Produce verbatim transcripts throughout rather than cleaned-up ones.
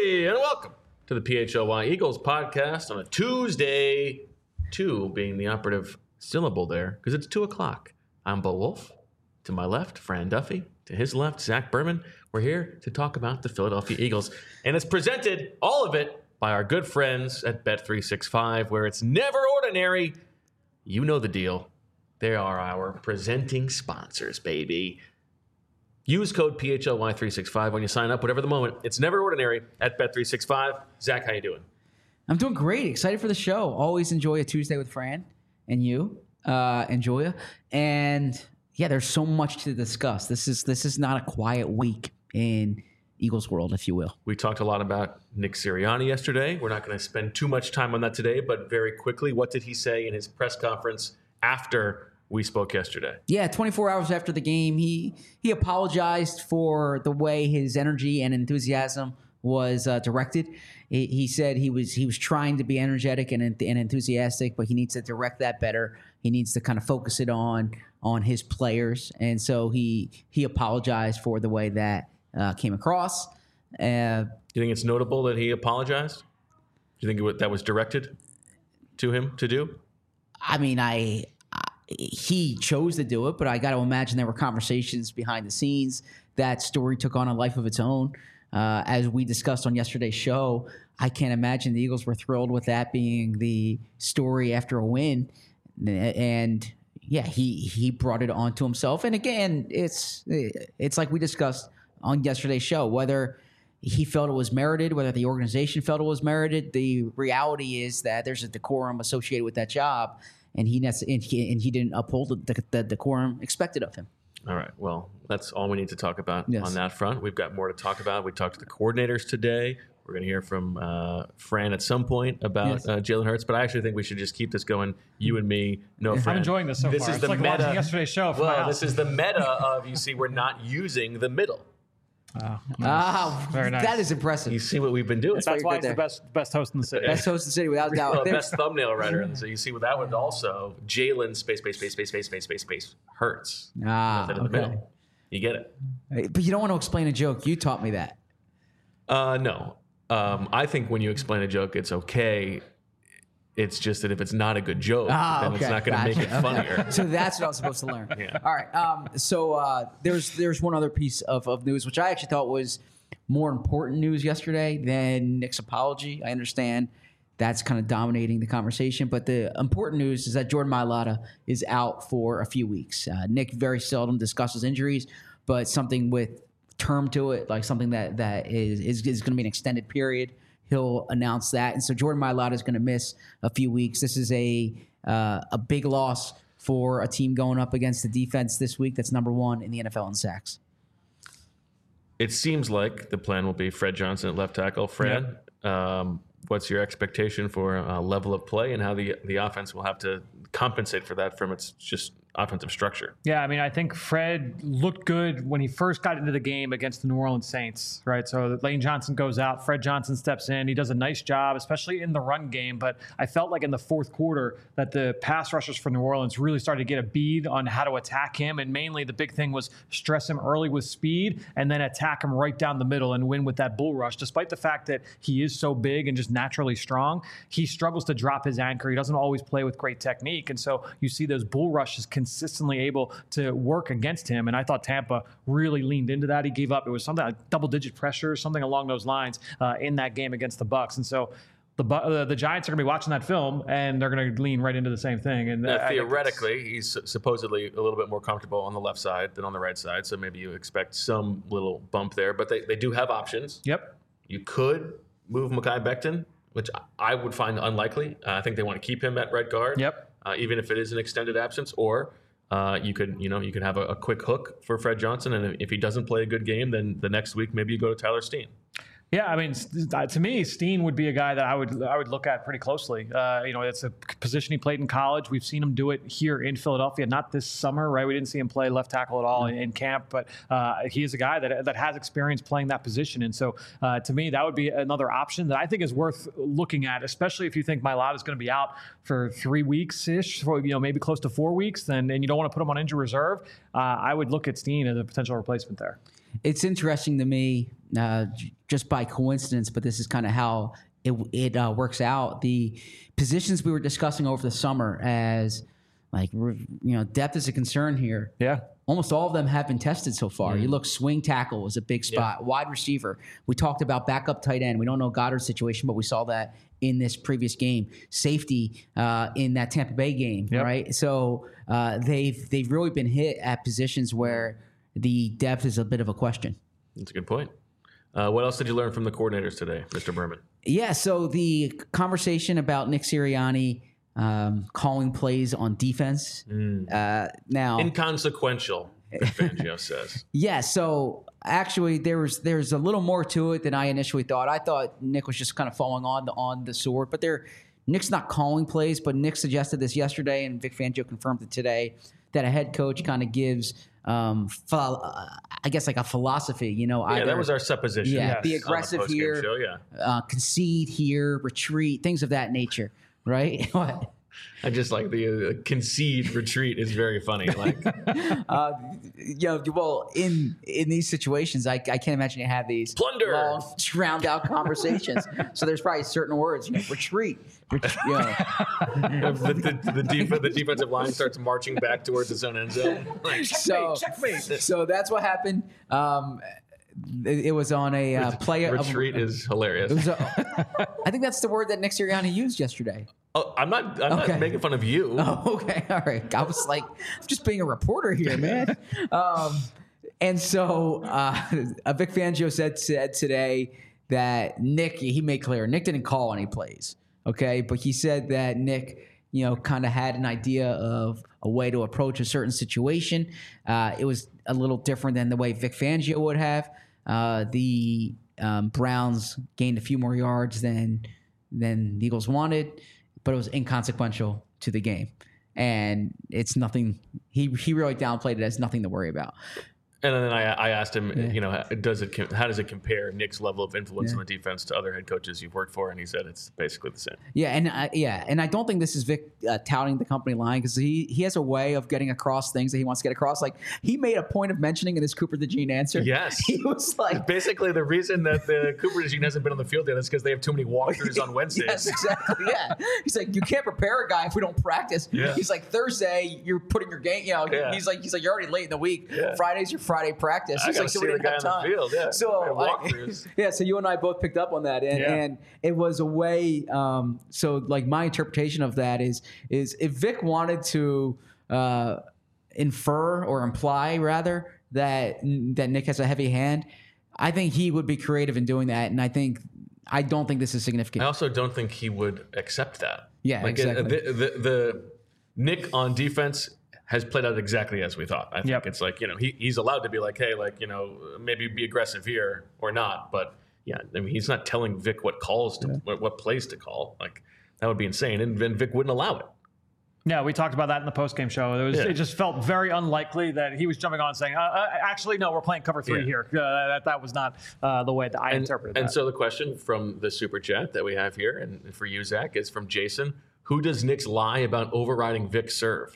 everybody, and welcome to the P H L Y Eagles podcast on a Tuesday, two being the operative syllable there, because it's two o'clock. I'm Bo Wolf. To my left, Fran Duffy. To his left, Zach Berman. We're here to talk about the Philadelphia Eagles, and it's presented, all of it, by our good friends at Bet three sixty-five, where it's never ordinary. You know the deal. They are our presenting sponsors, baby. Use code P H L Y three sixty-five when you sign up, whatever the moment. It's never ordinary at Bet three sixty-five. Zach, how you doing? I'm doing great. Excited for the show. Always enjoy a Tuesday with Fran and you uh, and Julia. And yeah, there's so much to discuss. This is this is not a quiet week in Eagles world, if you will. We talked a lot about Nick Sirianni yesterday. We're not going to spend too much time on that today, but very quickly, what did he say in his press conference after we spoke yesterday? Yeah, twenty-four hours after the game, he he apologized for the way his energy and enthusiasm was uh, directed. He, he said he was he was trying to be energetic and, and enthusiastic, but he needs to direct that better. He needs to kind of focus it on on his players, and so he he apologized for the way that uh, came across. Uh, Do you think it's notable that he apologized? Do you think it, that was directed to him to do? I mean, I. He chose to do it, but I got to imagine there were conversations behind the scenes. That story took on a life of its own. Uh, as we discussed on yesterday's show, I can't imagine the Eagles were thrilled with that being the story after a win. And yeah, he he brought it onto himself. And again, it's it's like we discussed on yesterday's show, whether he felt it was merited, whether the organization felt it was merited. The reality is that there's a decorum associated with that job. And he, and he and he didn't uphold the, the decorum expected of him. All right. Well, that's all we need to talk about yes. on that front. We've got more to talk about. We talked to the coordinators today. We're going to hear from uh, Fran at some point about yes. uh, Jalen Hurts. But I actually think we should just keep this going. You and me, no Fran. I'm enjoying this so this far. Is it's the like meta. watching yesterday's show. From well, my house. This is the meta of, you see, we're not using the middle. Oh, nice. Ah, very nice. That is impressive. You see what we've been doing. That's, That's why why he's you're the good best best host in the city. Best host in the city, without a doubt. Well, There's- best thumbnail writer. And so you see, with that one also, Jalen space, space, space, space, space, space, space, space, Hurts. Ah, Nothing in the okay. middle. You get it. But you don't want to explain a joke. You taught me that. Uh, no. Um, I think when you explain a joke, it's okay. It's just that if it's not a good joke, Ah, then okay. it's not going to Gotcha. make it funnier. Okay. So that's what I was supposed to learn. Yeah. All right. Um, so uh, there's there's one other piece of, of news, which I actually thought was more important news yesterday than Nick's apology. I understand that's kind of dominating the conversation, but the important news is that Jordan Mailata is out for a few weeks. Uh, Nick very seldom discusses injuries, but something with term to it, like something that that is is, is going to be an extended period, he'll announce that. And so Jordan Mailata is going to miss a few weeks. This is a uh, a big loss for a team going up against the defense this week that's number one in the N F L in sacks. It seems like the plan will be Fred Johnson at left tackle. Fred, yeah. um, what's your expectation for uh, level of play and how the the offense will have to compensate for that from its just offensive structure? Yeah, I mean, I think Fred looked good when he first got into the game against the New Orleans Saints, right? So Lane Johnson goes out, Fred Johnson steps in. He does a nice job, especially in the run game. But I felt like in the fourth quarter that the pass rushers for New Orleans really started to get a bead on how to attack him. And mainly the big thing was stress him early with speed and then attack him right down the middle and win with that bull rush. Despite the fact that he is so big and just naturally strong, he struggles to drop his anchor. He doesn't always play with great technique. And so you see those bull rushes consistently able to work against him. And I thought Tampa really leaned into that. He gave up. It was something like double-digit pressure, something along those lines uh, in that game against the Bucs. And so the uh, the Giants are going to be watching that film, and they're going to lean right into the same thing. And now, theoretically, he's supposedly a little bit more comfortable on the left side than on the right side. So maybe you expect some little bump there. But they, they do have options. Yep. You could move Mekhi Becton, which I would find unlikely. Uh, I think they want to keep him at right guard. Yep. Uh, even if it is an extended absence, or uh, you could, you know, you could have a, a quick hook for Fred Johnson, and if he doesn't play a good game, then the next week maybe you go to Tyler Steen. Yeah, I mean, to me, Steen would be a guy that I would I would look at pretty closely. Uh, you know, it's a position he played in college. We've seen him do it here in Philadelphia, not this summer, right? We didn't see him play left tackle at all in, in camp, but uh, he is a guy that that has experience playing that position. And so, uh, to me, that would be another option that I think is worth looking at, especially if you think Mailata is going to be out for three weeks ish, for you know maybe close to four weeks, then and you don't want to put him on injury reserve. Uh, I would look at Steen as a potential replacement there. it's interesting to me, uh, j- just by coincidence, but this is kind of how it it uh, works out. The positions we were discussing over the summer as like re- you know depth is a concern here. Yeah. Almost all of them have been tested so far. Mm. You look, swing tackle was a big spot. Wide receiver. We talked about backup tight end. We don't know Goddard's situation, but we saw that in this previous game. Safety uh, in that Tampa Bay game, Yep. right? So uh, they've they've really been hit at positions where the depth is a bit of a question. That's a good point. Uh, what else did you learn from the coordinators today, Mister Berman? Yeah, so the conversation about Nick Sirianni um, calling plays on defense. Uh, now, Inconsequential, Fangio says. yeah, so actually there was there's a little more to it than I initially thought. I thought Nick was just kind of falling on the on the sword, but there Nick's not calling plays, but Nick suggested this yesterday, and Vic Fangio confirmed it today, that a head coach kind of gives, um, ph- uh, I guess, like a philosophy. You know, Yeah, either, that was our supposition. Yeah, Yes. be on the aggressive post-game here, show, yeah. uh, concede here, retreat, things of that nature, right? What? I just like the uh, concede retreat is very funny. Like, uh, you know, well, in in these situations, I, I can't imagine you have these Plunder. long, drowned out conversations. So there's probably certain words, you know, retreat, ret- you know. the, the, the, def- the defensive line starts marching back towards its own end zone. Like, So, so that's what happened. Um, it, it was on a uh, play. of- retreat is hilarious. It was a, I think that's the word that Nick Sirianni used yesterday. Oh, I'm not. I'm Okay. not making fun of you. Oh, okay. All right. I was like, I'm just being a reporter here, man. um, and so uh, Vic Fangio said, said today that Nick, he made clear, Nick didn't call any plays, okay? But he said that Nick, you know, kind of had an idea of a way to approach a certain situation. Uh, it was a little different than the way Vic Fangio would have. Uh, the um, Browns gained a few more yards than than the Eagles wanted, but it was inconsequential to the game. And it's nothing, he he really downplayed it as nothing to worry about. And then I, I asked him, you know, does it com- how does it compare Nick's level of influence on the defense to other head coaches you've worked for? And he said it's basically the same. Yeah, and uh, yeah, and I don't think this is Vic uh, touting the company line, because he he has a way of getting across things that he wants to get across. Like, he made a point of mentioning in his Cooper DeJean answer. Yes. He was like, Basically, the reason that the Cooper DeJean hasn't been on the field yet is because they have too many walkthroughs on Wednesdays. Yes, exactly. Yeah. He's like, you can't prepare a guy if we don't practice. Yeah. He's like, Thursday, you're putting your game, you know, Yeah. he's like, he's like, you're already late in the week. Yeah. Friday's your Friday practice. I He's gotta like, so see we the didn't guy have on time. the field. Yeah. So, I- walkthroughs. yeah, so you and I both picked up on that. And, Yeah. and it was a way, um, so like my interpretation of that is, is if Vic wanted to uh, infer or imply rather that, that Nick has a heavy hand, I think he would be creative in doing that. And I think, I don't think this is significant. I also don't think he would accept that. Yeah, like, uh, exactly. The, the, the Nick on defense has played out exactly as we thought. I think Yep. it's like, you know, he, he's allowed to be like, hey, like, you know, maybe be aggressive here or not. But yeah, I mean, he's not telling Vic what calls to, what, what plays to call. Like, that would be insane. And then Vic wouldn't allow it. Yeah, we talked about that in the postgame show. It was Yeah. it just felt very unlikely that he was jumping on and saying, uh, uh, actually, no, we're playing cover three Yeah. here. Uh, that, that was not uh, the way that I And, interpreted and that. so the question from the super chat that we have here, and for you, Zach, is from Jason. Who does Nick's lie about overriding Vic serve?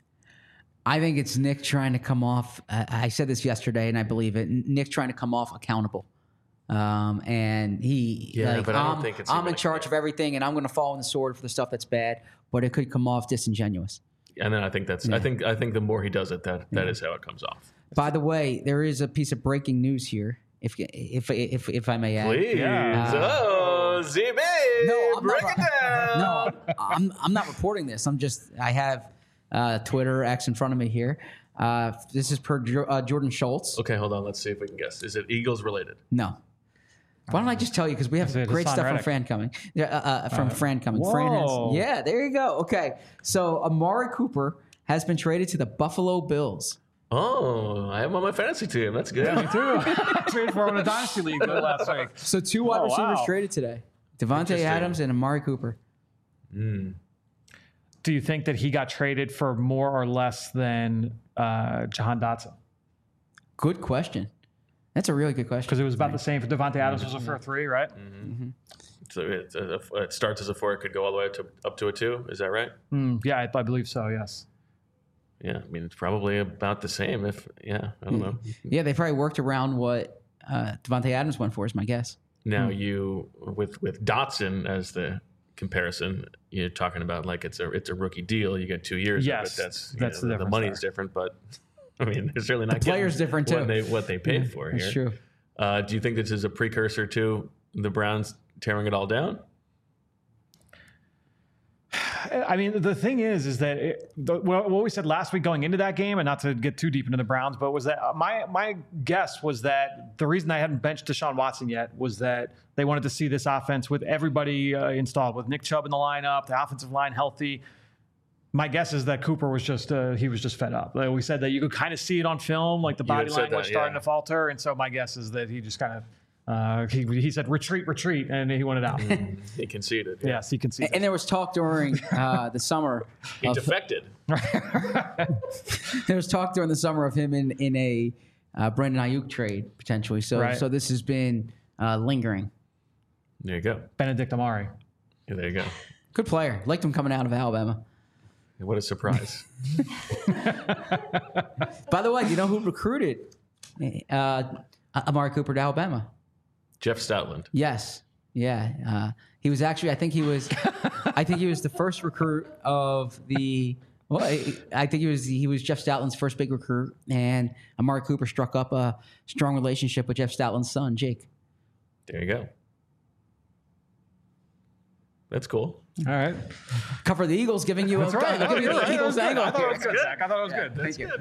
I think it's Nick trying to come off. Uh, I said this yesterday, and I believe it. Nick trying to come off accountable, um, and he. Yeah, like, but I don't I'm, think it's I'm even in a- charge of everything, and I'm going to fall on the sword for the stuff that's bad. But it could come off disingenuous. And then I think that's. I think. I think the more he does it, that that is how it comes off. By the way, there is a piece of breaking news here, if if if if I may add. Please, Yeah. oh, Z B, No, I'm break not, it down. No, I'm I'm not reporting this. I'm just I have uh, Twitter X in front of me here. Uh, this is per Jo- uh, Jordan Schultz. Okay, hold on. Let's see if we can guess. Is it Eagles related? No. Why don't I just tell you, because we have Is it great Hassan stuff from Reddick? Fran coming. Yeah, uh, uh, from Fran coming. Fran whoa. has, yeah, there you go. Okay, so Amari Cooper has been traded to the Buffalo Bills. Oh, I have him on my fantasy team. That's good. Me too. Traded for him in a dynasty league uh, last week. So two wide Oh, receivers wow. traded today: Devontae Interesting. Adams and Amari Cooper. Do you think that he got traded for more or less than uh, Jahan Dotson? Good question. That's a really good question. Because it was about the same for Devontae Adams was a for three, right? So it, it starts as a four. It could go all the way up to up to a two. Is that right? Mm, yeah, I, I believe so. Yes. Yeah, I mean, it's probably about the same. If yeah, I don't know. Yeah, they probably worked around what uh, Devontae Adams went for, is my guess. Now you with with Dotson as the comparison, you're talking about like it's a it's a rookie deal. You get two years. Yes, of it. That's that's you know, the the, difference money's there. different, but I mean, they're certainly not The player's getting different, what too. They, what they paid Yeah, for that's here. true. Uh, do you think this is a precursor to the Browns tearing it all down? I mean, the thing is, is that it, the, what we said last week going into that game, and not to get too deep into the Browns, but was that uh, my my guess was that the reason I hadn't benched Deshaun Watson yet was that they wanted to see this offense with everybody uh, installed, with Nick Chubb in the lineup, the offensive line healthy. My guess is that Cooper was just uh, he was just fed up. Like we said that you could kind of see it on film, like the You body had said language that, starting yeah. to falter, and so my guess is that he just kind of uh, he he said retreat, retreat, and he wanted out. He conceded. Yes, he conceded. And there was talk during uh, the summer. He of, defected. there was talk during the summer of him in in a uh, Brandon Ayuk trade potentially. So Right. so this has been uh, lingering. There you go. Benedict Amari. Yeah, there you go. Good player. Liked him coming out of Alabama. What a surprise. By the way, do you know who recruited uh, Amari Cooper to Alabama? Jeff Stoutland. Yes. Yeah. Uh, he was actually, I think he was, I think he was the first recruit of the, well, I, I think he was, he was Jeff Stoutland's first big recruit, and Amari Cooper struck up a strong relationship with Jeff Stoutland's son, Jake. There you go. That's cool. All right. Cover the Eagles, giving you a, giving you the Eagles angle. I thought it was here. good, Zach. I thought it was good. Thank you.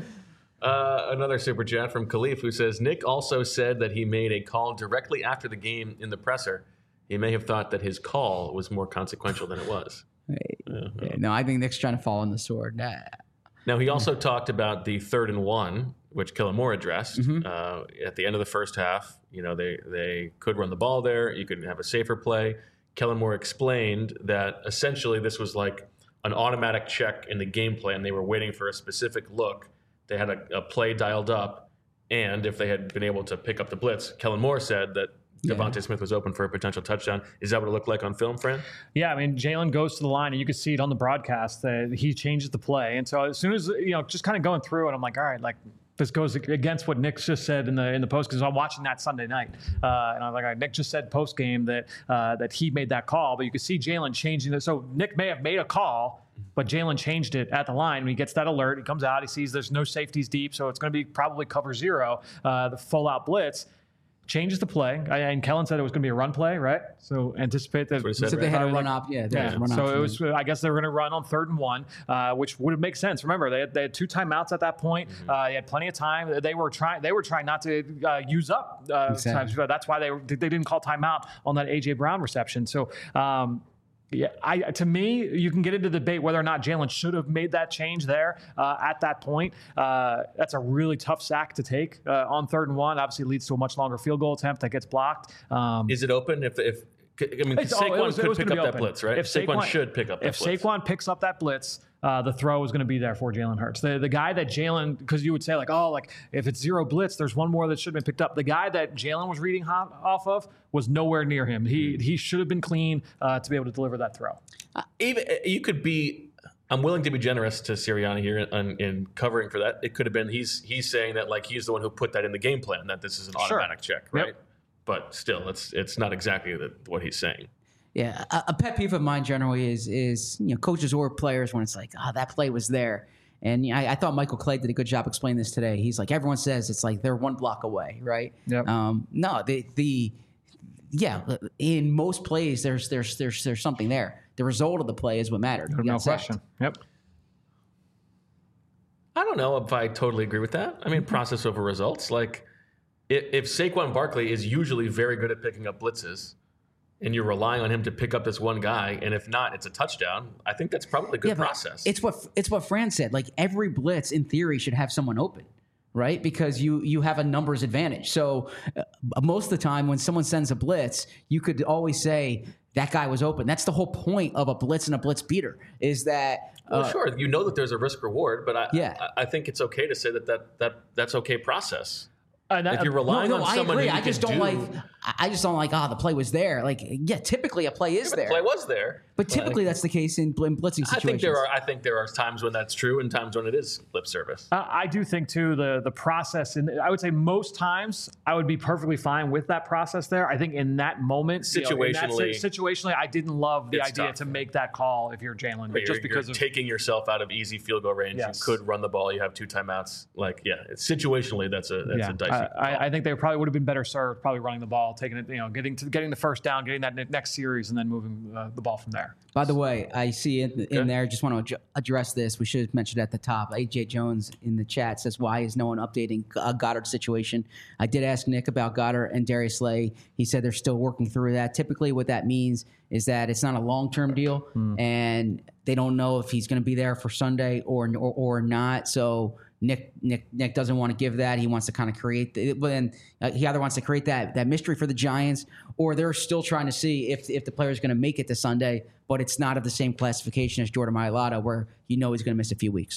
Uh, another super chat from Khalif, who says Nick also said that he made a call directly after the game in the presser. He may have thought that his call was more consequential than it was. Yeah, no, I think Nick's trying to fall on the sword. Nah. Now, he also talked about the third and one, which Kellen Moore addressed uh, at the end of the first half. You know, they, they could run the ball there. You could have a safer play. Kellen Moore explained that essentially this was like an automatic check in the game plan. They were waiting for a specific look. They had a, a play dialed up, and if they had been able to pick up the blitz, Kellen Moore said that Yeah. Devontae Smith was open for a potential touchdown. Is that what it looked like on film, Fran? Yeah, I mean, Jalen goes to the line, and you can see it on the broadcast that he changes the play. And so as soon as, you know, just kind of going through it, I'm like, all right, like, this goes against what Nick just said in the in the post, because I'm watching that Sunday night, uh, and I'm like, all right, Nick just said post game that uh, that he made that call, but you can see Jalen changing it. So Nick may have made a call, but Jalen changed it at the line. When he gets that alert, he comes out, he sees there's no safeties deep, so it's going to be probably cover zero, uh, the full out blitz. Changes the play, I, and Kellen said it was going to be a run play, right? So anticipate that. That's what he said, So they right? had a Uh, run like- op. Yeah, there was Yeah, a run so option. it was. I guess they were going to run on third and one, uh, which would make sense. Remember, they had, they had two timeouts at that point. Uh, they had plenty of time. They were trying. They were trying not to uh, use up uh, Exactly. times. So that's why they were, they didn't call timeout on that A J Brown reception. So. Um, Yeah, I, to me, you can get into the debate whether or not Jalen should have made that change there uh, at that point. Uh, that's a really tough sack to take uh, on third and one. Obviously, leads to a much longer field goal attempt that gets blocked. Um, Is it open? If if I mean, It's- oh, Saquon it was- it could was pick gonna up be that open. blitz, right? If Saquon, Saquon- should pick up that if blitz. Saquon picks up that blitz, uh, the throw is going to be there for Jalen Hurts. The the guy that Jalen, because you would say like, oh, like if it's zero blitz, there's one more that should have been picked up. The guy that Jalen was reading ho- off of was nowhere near him. He he should have been clean uh, to be able to deliver that throw. Even you could be. I'm willing to be generous to Sirianni here in, in covering for that. It could have been he's he's saying that like he's the one who put that in the game plan, that this is an Sure. automatic check, right? Yep. But still, it's it's not exactly the, what he's saying. Yeah, a, a pet peeve of mine generally is is you know coaches or players when it's like, oh, that play was there. And I, I thought Michael Clay did a good job explaining this today. He's like, everyone says it's like they're one block away, right? Yep. Um, no, the the yeah, in most plays there's there's there's there's something there. The result of the play is what mattered. You No got sacked. question. Yep. I don't know if I totally agree with that. I mean, process over results. Like, if, if Saquon Barkley is usually very good at picking up blitzes, and you're relying on him to pick up this one guy, and if not, it's a touchdown. I think that's probably a good Yeah, but process. It's what it's what Fran said. Like every blitz, in theory, should have someone open, right? Because you you have a numbers advantage. So uh, most of the time, when someone sends a blitz, you could always say that guy was open. That's the whole point of a blitz and a blitz beater. Is that well, uh, sure, you know that there's a risk reward, but I, Yeah. I, I think it's okay to say that, that that that's okay process. And that- If you're No, relying no, on I someone agree. who you I just can don't do, like. I just don't like, oh, the play was there. Like, yeah, typically a play is Yeah, but there. the play was there. But typically that's the case in bl- blitzing situations. I think there are. I think there are times when that's true, and times when it is lip service. Uh, I do think too the the process, and I would say most times I would be perfectly fine with that process there. I think in that moment, you know, in that Situationally- si- situationally, I didn't love the It's idea tough. to make that call if you're Jalen, You're, just because you're of taking yourself out of easy field goal range. Yes. You could run the ball. You have two timeouts. Like, yeah, it's situationally that's a that's yeah. a dicey. I, call. I, I think they probably would have been better served probably running the ball, taking it, you know, getting to getting the first down, getting that ne- next series, and then moving uh, the ball from there. By the way, I see in, in Okay. there, just want to adju- address this. We should have mentioned at the top. A J Jones in the chat says, why is no one updating uh, Goddard's situation? I did ask Nick about Goddard and Darius Slay. He said they're still working through that. Typically what that means is that it's not a long-term deal, Hmm. and they don't know if he's going to be there for Sunday or or, or not. So Nick Nick Nick doesn't want to give that. He wants to kind of create the, but then uh, he either wants to create that that mystery for the Giants, or they're still trying to see if if the player is going to make it to Sunday, but it's not of the same classification as Jordan Mailata, where you know he's going to miss a few weeks.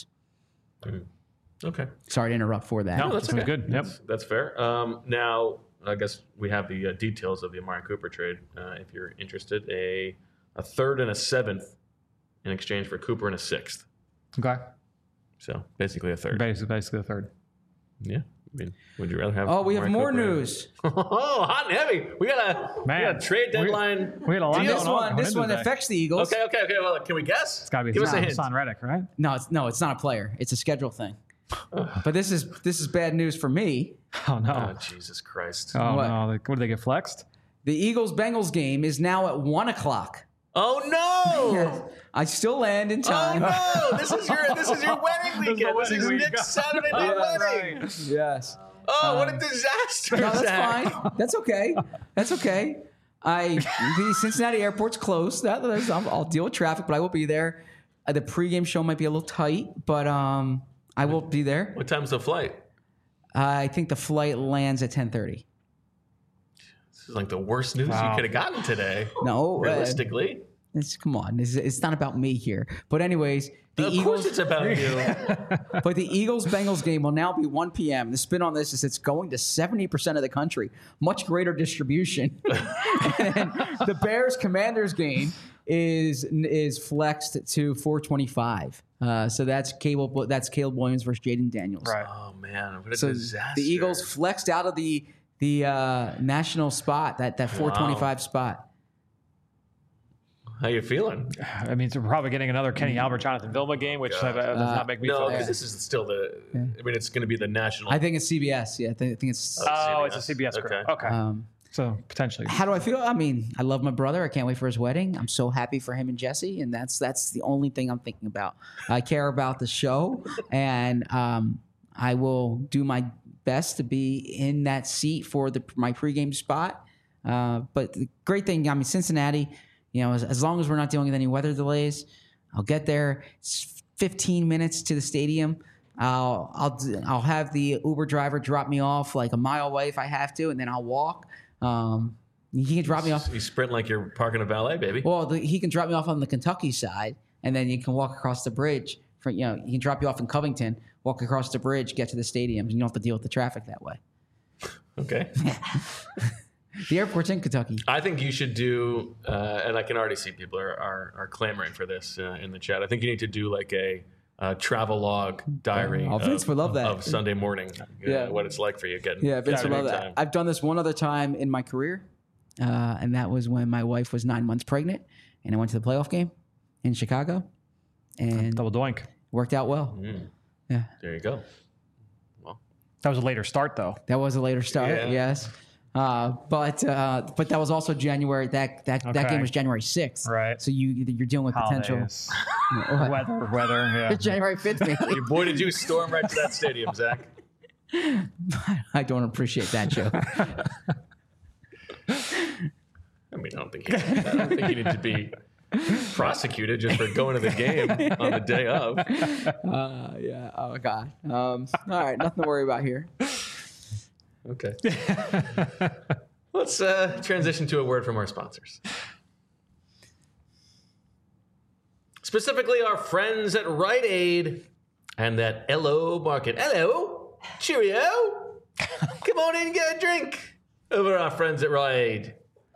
okay. Sorry to interrupt for that. No, that's that's okay. good. Yep. That's, that's fair. Um, now, I guess we have the uh, details of the Amari Cooper trade. Uh, if you're interested, a a third and a seventh in exchange for Cooper and a sixth. Okay. So basically a third. Basically, basically the third. Yeah. I mean, would you rather have? Oh, we have Amari more Cooper? news. Oh, hot and heavy. We got a, we Man, got a trade we- deadline. We had a lot Deal. This going on one, going this into one today. affects the Eagles. Okay, okay, okay. Well, can we guess? It's got to be Give us a Hassan hint. Hassan Reddick, right? No, it's no, it's not a player. It's a schedule thing. But this is this is bad news for me. Oh no. Oh, Jesus Christ. Oh What? no. Like, what did they get flexed? The Eagles Bengals game is now at one o'clock. Oh no! I still land in Oh time. no! This is your this is your wedding This is the weekend. This wedding is week. Nick's Saturday night Yeah, wedding. right. Yes. Oh, what a disaster! No, that's Zach. fine. That's okay. That's okay. I the Cincinnati airport's closed. That, that's, I'll, I'll deal with traffic, but I will be there. Uh, the pregame show might be a little tight, but um, I will be there. What time's the flight? I think the flight lands at ten thirty. This is like the worst news Wow. you could have gotten today. No, uh, Realistically, it's, come on. It's, it's not about me here. But anyways, the of Eagles. course it's about you. But the Eagles-Bengals game will now be one p.m. The spin on this is it's going to seventy percent of the country, much greater distribution. And the Bears-Commanders game is is flexed to four twenty-five. Uh, so that's Cable. That's Caleb Williams versus Jaden Daniels. Right. Oh man, what a So disaster! the Eagles flexed out of the the uh, national spot, that that four twenty-five spot. How you feeling? I mean, so we're probably getting another Kenny Albert, Jonathan Vilma game, which uh, does not make me No, feel because good. this is still the. I mean, it's going to be the national. I think it's C B S. Yeah, I think, I think it's. Oh, it's a C C B B S. S crew. Okay. Okay. Um, So potentially. How do I feel? I mean, I love my brother. I can't wait for his wedding. I'm so happy for him and Jesse, and that's that's the only thing I'm thinking about. I care about the show, and um, I will do my best to be in that seat for the my pregame spot. Uh, but the great thing, I mean, Cincinnati, you know, as, as long as we're not dealing with any weather delays, I'll get there. It's fifteen minutes to the stadium. I'll I'll I'll have the Uber driver drop me off like a mile away if I have to, and then I'll walk. Um, he can drop me off. You sprint like you're parking a valet, baby. Well, the, he can drop me off on the Kentucky side, and then you can walk across the bridge. For you know, he can drop you off in Covington, walk across the bridge, get to the stadium, and you don't have to deal with the traffic that way. Okay. The airport's in Kentucky. I think you should do, uh, and I can already see people are are, are clamoring for this uh, in the chat. I think you need to do like a uh, travel log diary. Oh, Vince of, would love that. of Sunday morning. Uh, Yeah. what it's like for you getting. Yeah, Vince would getting love that. time. I've done this one other time in my career, uh, and that was when my wife was nine months pregnant, and I went to the playoff game in Chicago, and Double doink. worked out well. Mm, Yeah, there you go. That was a later start, though. that was a later start. Yeah. Yes. Uh, but uh, but that was also January. That that, that Okay. game was January sixth. Right. So you you're dealing with potential. Holidays. What? weather, weather. Yeah. January fifth, maybe. Your boy, did you storm right to that stadium, Zach? I don't appreciate that joke. I mean, I don't think you, I don't think you need to be prosecuted just for going to the game on the day of. Uh, yeah. Oh God. Um, all right. Nothing to worry about here. Okay. Let's uh, transition to a word from our sponsors. Specifically, our friends at Rite Aid and that L O Market. Hello. Cheerio. Come on in and get a drink. Over to our friends at Rite Aid.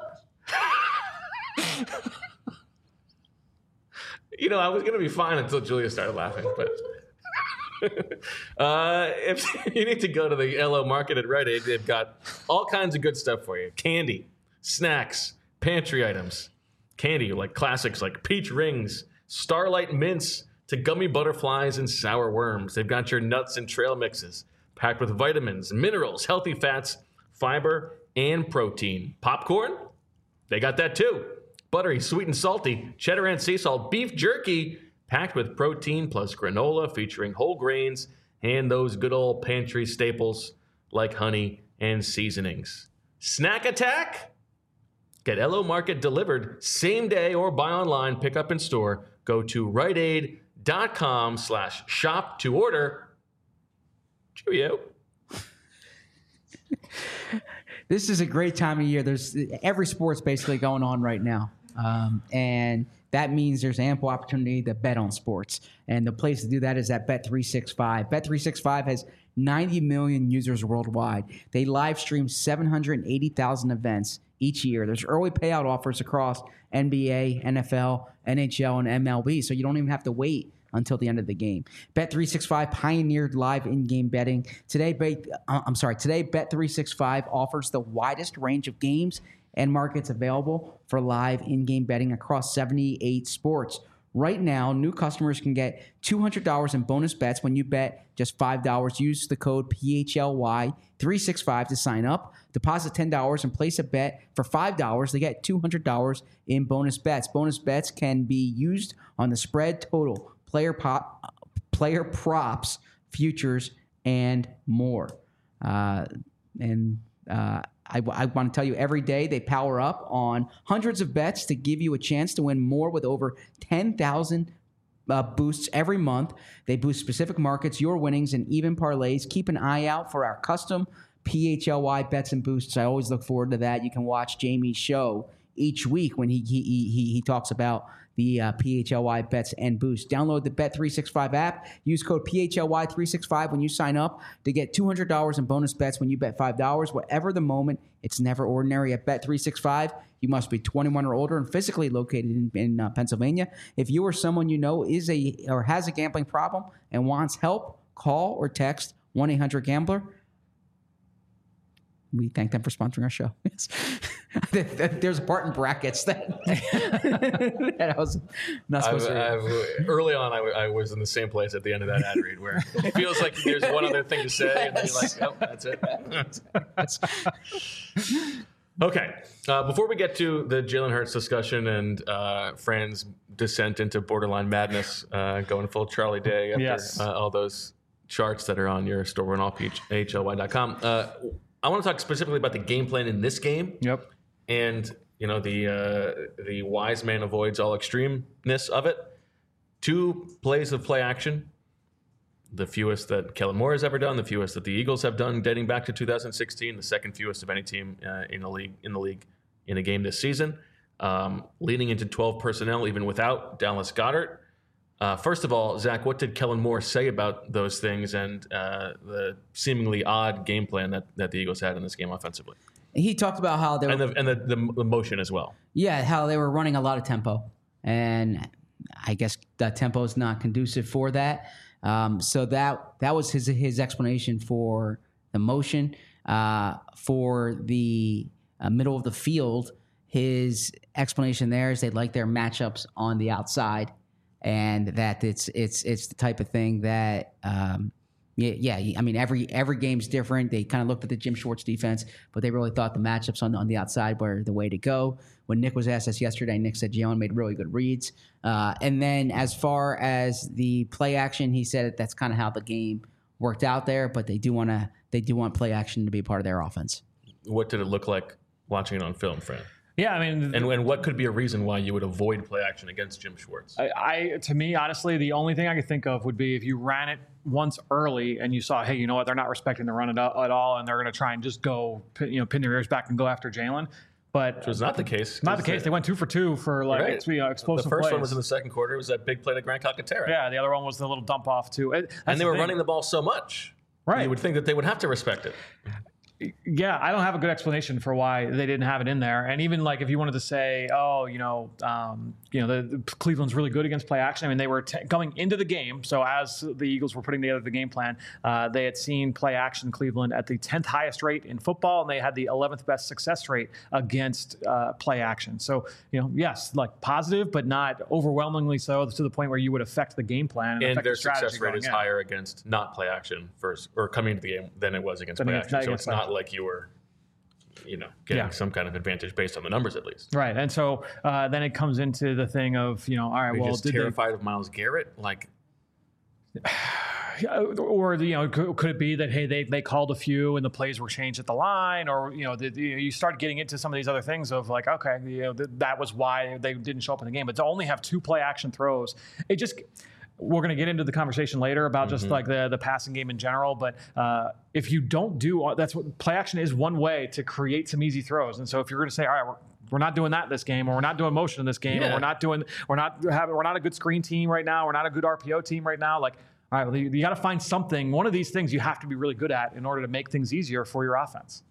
You know, I was going to be fine until Julia started laughing, but uh, if you need to go to the L O Market at Rite Aid, they've got all kinds of good stuff for you. Candy, snacks, pantry items. Candy, like classics like peach rings, Starlight mints, to gummy butterflies and sour worms. They've got your nuts and trail mixes, packed with vitamins, minerals, healthy fats, fiber, and protein. Popcorn? They got that too. Buttery, sweet and salty, cheddar and sea salt beef jerky, packed with protein plus granola featuring whole grains and those good old pantry staples like honey and seasonings. Snack Attack? Get L O Market delivered same day or buy online, pick up in store. Go to riteaid.com slash shop to order. Cheerio. This is a great time of year. There's every sport's basically going on right now. Um, and that means there's ample opportunity to bet on sports. And the place to do that is at Bet three sixty-five. Bet three sixty-five has ninety million users worldwide. They live stream seven hundred eighty thousand events each year. There's early payout offers across N B A, N F L, N H L, and M L B, so you don't even have to wait until the end of the game. Bet three sixty-five pioneered live in-game betting. Today, Bet, uh, I'm sorry, today Bet three sixty-five offers the widest range of games and markets available for live in-game betting across seventy-eight sports. Right now, new customers can get two hundred dollars in bonus bets when you bet just five dollars. Use the code P H L Y three sixty-five to sign up. Deposit ten dollars and place a bet for five dollars. They get two hundred dollars in bonus bets. Bonus bets can be used on the spread, total, player pop, player props, futures, and more. Uh, and uh, I, I want to tell you, every day they power up on hundreds of bets to give you a chance to win more with over ten thousand uh, boosts every month. They boost specific markets, your winnings, and even parlays. Keep an eye out for our custom P H L Y bets and boosts. I always look forward to that. You can watch Jamie's show each week when he he he, he talks about the uh, P H L Y bets and boosts. Download the Bet three sixty-five app. Use code P H L Y three sixty-five when you sign up to get two hundred dollars in bonus bets when you bet five dollars. Whatever the moment, it's never ordinary at Bet three sixty-five. You must be twenty-one or older and physically located in, in uh, Pennsylvania. If you or someone you know is a or has a gambling problem and wants help, call or text one eight hundred gambler. We thank them for sponsoring our show. Yes. There's a part in brackets that, that I was not supposed I've, to I've, early on, I, w- I was in the same place at the end of that ad read where it feels like there's one other thing to say, yes. And then you're like, oh, that's it. Okay. Uh, before we get to the Jalen Hurts discussion and uh, Fran's descent into borderline madness, uh, going full Charlie Day after yes. uh, all those charts that are on your store and all P H L Y dot com. Uh, I want to talk specifically about the game plan in this game. Yep. And, you know, the uh, the wise man avoids all extremeness of it. Two plays of play action, the fewest that Kellen Moore has ever done, the fewest that the Eagles have done dating back to two thousand sixteen, the second fewest of any team uh, in the league in the league in a game this season. Um, leading into twelve personnel, even without Dallas Goedert. Uh, first of all, Zach, what did Kellen Moore say about those things and uh, the seemingly odd game plan that, that the Eagles had in this game offensively? He talked about how they were, and the and the, the, the motion as well. Yeah, how they were running a lot of tempo, and I guess the tempo is not conducive for that. Um, so that that was his his explanation for the motion. Uh, for the uh, middle of the field, his explanation there is they like their matchups on the outside. And that it's it's it's the type of thing that um, yeah yeah I mean every every game's different. They kind of looked at the Jim Schwartz defense, but they really thought the matchups on on the outside were the way to go. When Nick was asked this yesterday, Nick said Jalen made really good reads. Uh, and then as far as the play action, he said that's kind of how the game worked out there. But they do want to they do want play action to be part of their offense. What did it look like watching it on film, Fran? Yeah, I mean, and, and what could be a reason why you would avoid play action against Jim Schwartz? I, I, to me, honestly, the only thing I could think of would be if you ran it once early and you saw, hey, you know what, they're not respecting the run at, at all, and they're going to try and just go, you know, pin their ears back and go after Jalen. But which was not the case. Not the case. They, they went two for two for like right. you know, explosive The first plays. one was in the second quarter. It was that big play to Grant Calcaterra. Yeah, the other one was the little dump off too. It, and they the were thing. running the ball so much. Right. You would think that they would have to respect it. Yeah, I don't have a good explanation for why they didn't have it in there. And even like if you wanted to say, oh, you know, um, you know, the, the Cleveland's really good against play action. I mean, they were t- going into the game. So as the Eagles were putting together the game plan, uh, they had seen play action Cleveland at the tenth highest rate in football, and they had the eleventh best success rate against uh, play action. So, you know, yes, like positive, but not overwhelmingly so to the point where you would affect the game plan. And, And affect their the strategy success rate going is in. higher against not play action first or coming into the game than it was against Than play against- action. not So against it's play not action. like you were, you know, getting Yeah. some kind of advantage based on the numbers at least. Right. And so uh, then it comes into the thing of, you know, all right, Are you well, just did they, terrified of Myles Garrett? Like, or, you know, could, could it be that, hey, they, they called a few and the plays were changed at the line, or, you know, the, the, you start getting into some of these other things of like, okay, you know, th- that was why they didn't show up in the game. But to only have two play action throws, it just, we're going to get into the conversation later about just Mm-hmm. like the, the passing game in general. But uh, if you don't do, that's what play action is, one way to create some easy throws. And so if you're going to say, all right, we're, we're not doing that in this game, or we're not doing motion in this game, Yeah. or we're not doing, we're not having, we're not a good screen team right now, we're not a good R P O team right now, like, all right, well, you, you got to find something. One of these things you have to be really good at in order to make things easier for your offense.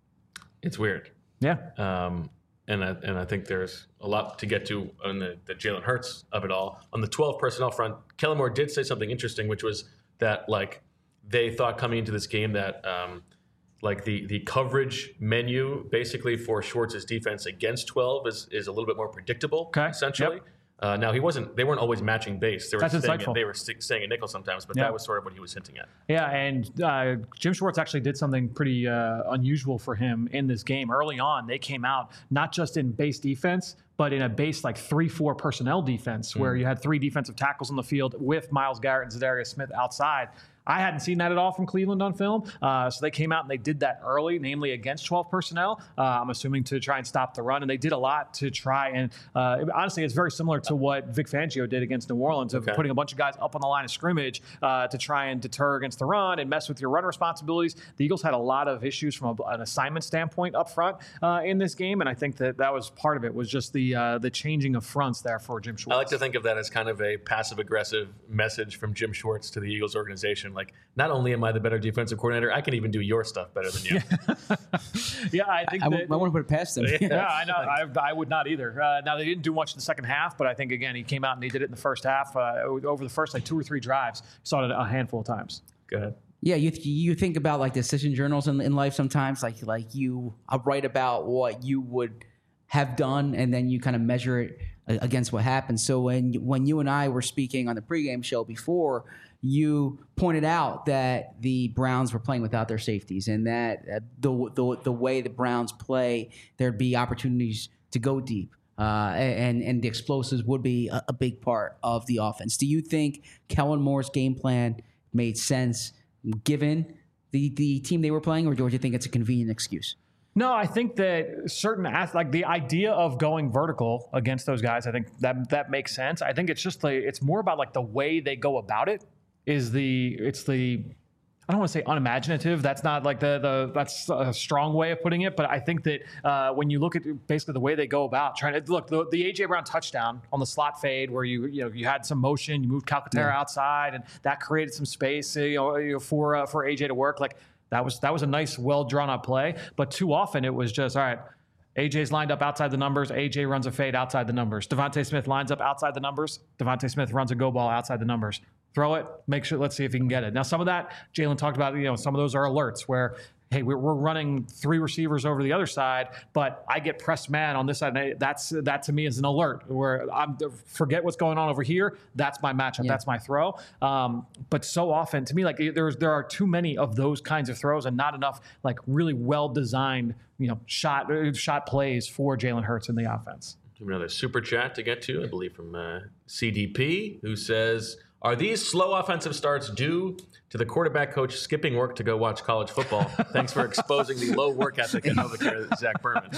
it's weird. Yeah. Um, and I, and I think there's a lot to get to on the, the Jalen Hurts of it all. On the twelve personnel front, Kellen Moore did say something interesting, which was that like they thought coming into this game that um, like the the coverage menu basically for Schwartz's defense against twelve is is a little bit more predictable. Okay. Essentially. Yep. Uh, now he wasn't. They weren't always matching base. They were That's staying, insightful. They were st- staying a nickel sometimes, but Yeah. that was sort of what he was hinting at. Yeah, and uh, Jim Schwartz actually did something pretty uh, unusual for him in this game. Early on, they came out not just in base defense, but in a base like three four personnel defense where you had three defensive tackles on the field with Myles Garrett and Zadarius Smith outside. I hadn't seen that at all from Cleveland on film. Uh, so they came out and they did that early, namely against twelve personnel. Uh, I'm assuming to try and stop the run. And they did a lot to try. And uh, honestly, it's very similar to what Vic Fangio did against New Orleans of Okay. putting a bunch of guys up on the line of scrimmage uh, to try and deter against the run and mess with your run responsibilities. The Eagles had a lot of issues from a, an assignment standpoint up front uh, in this game. And I think that that was part of it, was just the uh, the changing of fronts there for Jim Schwartz. I like to think of that as kind of a passive-aggressive message from Jim Schwartz to the Eagles organization. Like, not only am I the better defensive coordinator, I can even do your stuff better than you. yeah, I think I, that. w- I want to put it past them. Yeah, I know. I, I would not either. Uh, now, they didn't do much in the second half, but I think, again, he came out and he did it in the first half. Uh, over the first, like, two or three drives, saw it a handful of times. Go ahead. Yeah, you you think about like decision journals in, in life sometimes, like like you uh, write about what you would have done, and then you kind of measure it uh, against what happened. So when when you and I were speaking on the pregame show before, you pointed out that the Browns were playing without their safeties, and that uh, the, the the way the Browns play, there'd be opportunities to go deep. Uh, and and the explosives would be a, a big part of the offense. Do you think Kellen Moore's game plan made sense given the, the team they were playing, or do you think it's a convenient excuse? No, I think that certain ath- like the idea of going vertical against those guys, I think that that makes sense. I think it's just like it's more about like the way they go about it is the it's the I don't want to say unimaginative. That's not like the the that's a strong way of putting it. But I think that uh, when you look at basically the way they go about trying to look the, the A J Brown touchdown on the slot fade where you you know you had some motion, you moved Calcaterra Yeah. outside, and that created some space you know, you know for uh, for A J to work. Like that was that was a nice, well drawn up play. But too often it was just all right. A J's lined up outside the numbers. A J runs a fade outside the numbers. Devontae Smith lines up outside the numbers. Devontae Smith runs a go ball outside the numbers. Throw it, make sure, let's see if he can get it. Now, some of that, Jalen talked about, you know, some of those are alerts where, hey, we're, we're running three receivers over to the other side, but I get pressed man on this side. And that's, that to me is an alert where I'm forget what's going on over here. That's my matchup. Yeah. That's my throw. Um, but so often to me, like there's, there are too many of those kinds of throws and not enough like really well-designed, you know, shot, shot plays for Jalen Hurts in the offense. Another super chat to get to, I believe from uh, C D P, who says, are these slow offensive starts due to the quarterback coach skipping work to go watch college football? Thanks for exposing the low work ethic of Novacare, Zach Berman.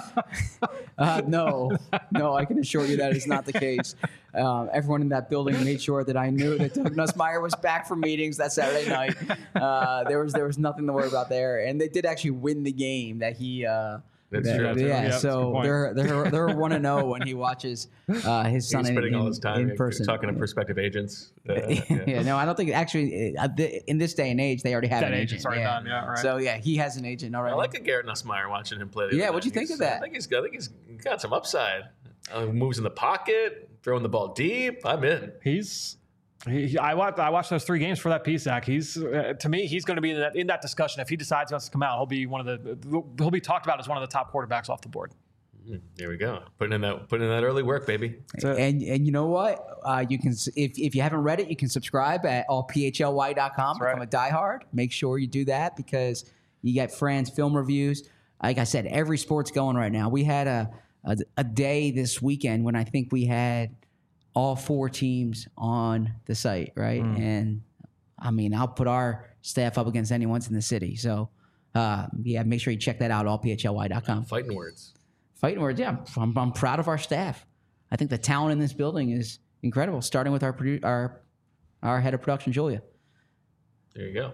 Uh, no, no, I can assure you that is not the case. Um, everyone in that building made sure that I knew that Doug Nussmeier was back from meetings that Saturday night. Uh, there was there was nothing to worry about there, and they did actually win the game that he uh, That's Yeah, true. yeah, too. Yeah, that's a good so point. they're they're they're one to know when he watches uh, his son He's in, spending all in, his time in person. talking to yeah. prospective agents. Uh, yeah. yeah. no, I don't think actually uh, th- in this day and age they already have That an agent's agent. already yeah. done, yeah, right. So yeah, he has an agent already. I like a Garrett Nussmeier watching him play. the Yeah, other what'd you night. think He's- of that? I think he's got. I think he's got some upside. Uh, moves in the pocket, throwing the ball deep. I'm in. He's. He, he- I watched. I watched those three games for that piece, Zach. He's uh, to me. He's going to be in that, in that discussion. If he decides he wants to come out, he'll be one of the. He'll be talked about as one of the top quarterbacks off the board. Mm, There we go. Putting in that. Putting in that early work, baby. And and you know what? Uh, you can s- if if you haven't read it, you can subscribe at all p h l y dot com. That's Become a diehard. Make sure you do that because you get Fran's film reviews. Like I said, every sport's going right now. We had a a, a day this weekend when I think we had all four teams on the site, right? And I mean, I'll put our staff up against anyone's in the city. So uh, yeah, make sure you check that out. all p h l y dot com. Fighting words. Fighting words, yeah. I'm, I'm proud of our staff. I think the talent in this building is incredible. Starting with our produ- our our head of production, Julia. There you go.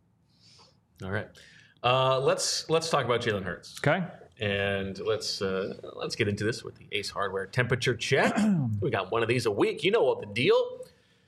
All right. Uh, let's let's talk about Jalen Hurts. Okay. And let's uh, let's get into this with the Ace Hardware temperature check. We got one of these a week. You know what the deal.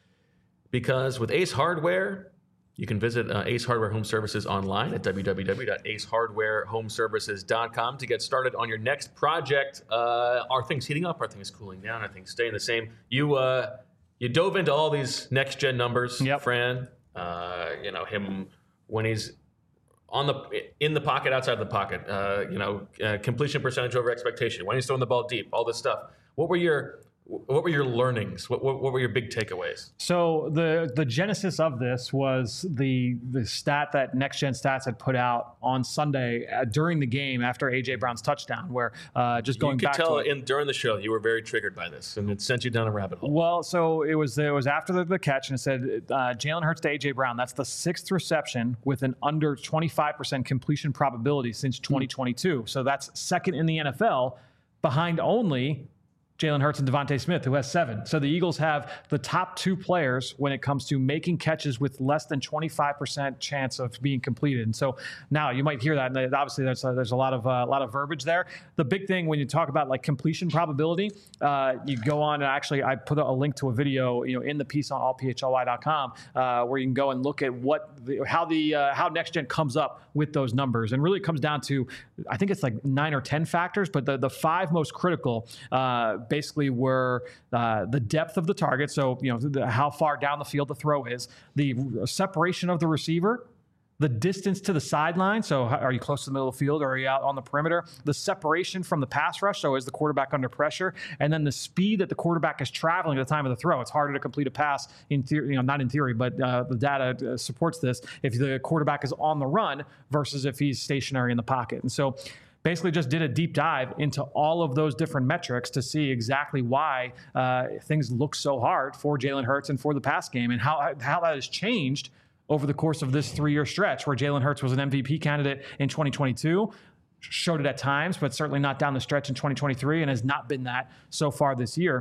Because with Ace Hardware, you can visit uh, Ace Hardware Home Services online at w w w dot ace hardware home services dot com to get started on your next project. Uh, are things heating up? Are things cooling down? Are things staying the same? You uh, you dove into all these next gen numbers, Yep. Fran. Uh, you know him when he's on the in the pocket, outside the pocket. Uh, you know, uh, completion percentage over expectation. When he's throwing the ball deep, all this stuff. What were your what were your learnings? What what, what were your big takeaways? So the the genesis of this was the the stat that Next Gen Stats had put out on Sunday uh, during the game after A J Brown's touchdown, where uh, just going you could back tell to it. in during the show you were very triggered by this, and it sent you down a rabbit hole. Well, so it was it was after the, the catch, and it said uh, Jalen Hurts to A J Brown. That's the sixth reception with an under twenty-five percent completion probability since twenty twenty-two. So that's second in the N F L, behind only Jalen Hurts and Devontae Smith, who has seven. So the Eagles have the top two players when it comes to making catches with less than twenty-five percent chance of being completed. And so now you might hear that, and obviously there's a, there's a lot of uh, a lot of verbiage there. The big thing when you talk about like completion probability, uh, you go on and actually I put a link to a video, you know, in the piece on all p h l y dot com uh, where you can go and look at what the, how the uh, how Next Gen comes up with those numbers, and really comes down to I think it's like nine or ten factors, but the the five most critical. Uh, basically were uh, the depth of the target, so you know the, how far down the field the throw is, the separation of the receiver, the distance to the sideline, so how, are you close to the middle of the field or are you out on the perimeter, the separation from the pass rush, so is the quarterback under pressure, and then the speed that the quarterback is traveling at the time of the throw. It's harder to complete a pass in theory, you know, not in theory, but uh, the data uh, supports this, if the quarterback is on the run versus if he's stationary in the pocket. And so basically just did a deep dive into all of those different metrics to see exactly why uh, things look so hard for Jalen Hurts and for the pass game, and how how that has changed over the course of this three-year stretch where Jalen Hurts was an M V P candidate in twenty twenty-two, showed it at times, but certainly not down the stretch in twenty twenty-three, and has not been that so far this year.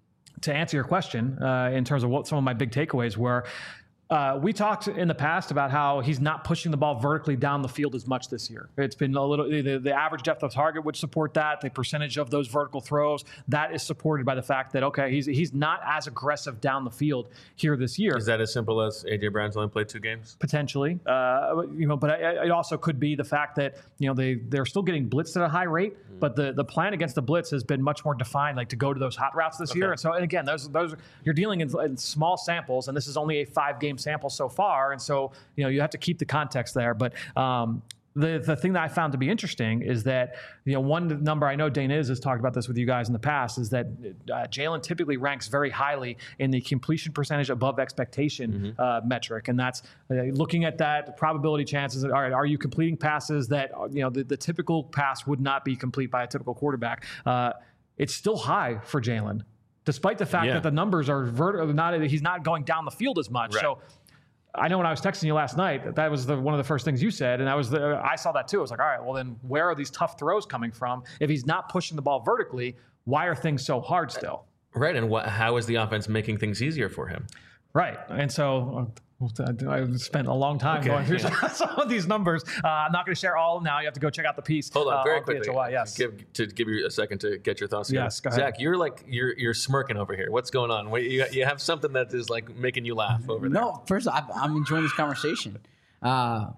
To answer your question, uh, in terms of what some of my big takeaways were, Uh, we talked in the past about how he's not pushing the ball vertically down the field as much this year. It's been a little, the, the average depth of target would support that. The percentage of those vertical throws, that is supported by the fact that, okay, he's he's not as aggressive down the field here this year. Is that as simple as A J Brown's only played two games? Potentially, uh, you know, but I, it also could be the fact that, you know, they, they're still getting blitzed at a high rate, mm. but the, the plan against the blitz has been much more defined, like to go to those hot routes this okay. year. And so, and again, those, those you're dealing in, in small samples, and this is only a five-game sample so far. And so, you know, you have to keep the context there. But um, the the thing that I found to be interesting is that, you know, one number, I know Dane Is has talked about this with you guys in the past, is that uh, Jalen typically ranks very highly in the completion percentage above expectation mm-hmm. uh, metric. And that's uh, looking at that probability chances. All right, are you completing passes that, you know, the, the typical pass would not be complete by a typical quarterback? Uh, it's still high for Jalen, despite the fact yeah. that the numbers are vert- not, he's not going down the field as much. Right. So I know when I was texting you last night, that, that was the, one of the first things you said, and that was the, I saw that too. I was like, all right, well then where are these tough throws coming from? If he's not pushing the ball vertically, why are things so hard still? Right, and what, how is the offense making things easier for him? Right, and so I've spent a long time Okay, going through yeah. some of these numbers. Uh, I'm not going to share all of them now. You have to go check out the piece. Hold on, uh, very on quickly. P H O Y, yes. Give, to give you a second to get your thoughts together. Yes, go ahead. Zach, you're like you're you're smirking over here. What's going on? Wait, you, you have something that is like making you laugh over there. No, first I'm, I'm enjoying this conversation. Uh,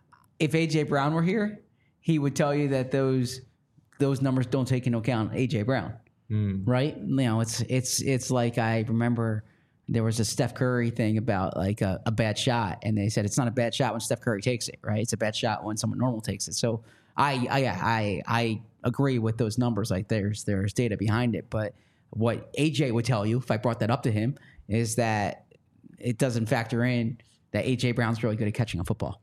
if A J Brown were here, he would tell you that those those numbers don't take into account A J Brown, Mm. right? You know, it's it's it's like I remember there was a Steph Curry thing about like a, a bad shot, and they said it's not a bad shot when Steph Curry takes it, right? It's a bad shot when someone normal takes it. So I I I, I agree with those numbers. Like there's there's data behind it, but what A J would tell you if I brought that up to him is that it doesn't factor in that A J Brown's really good at catching a football.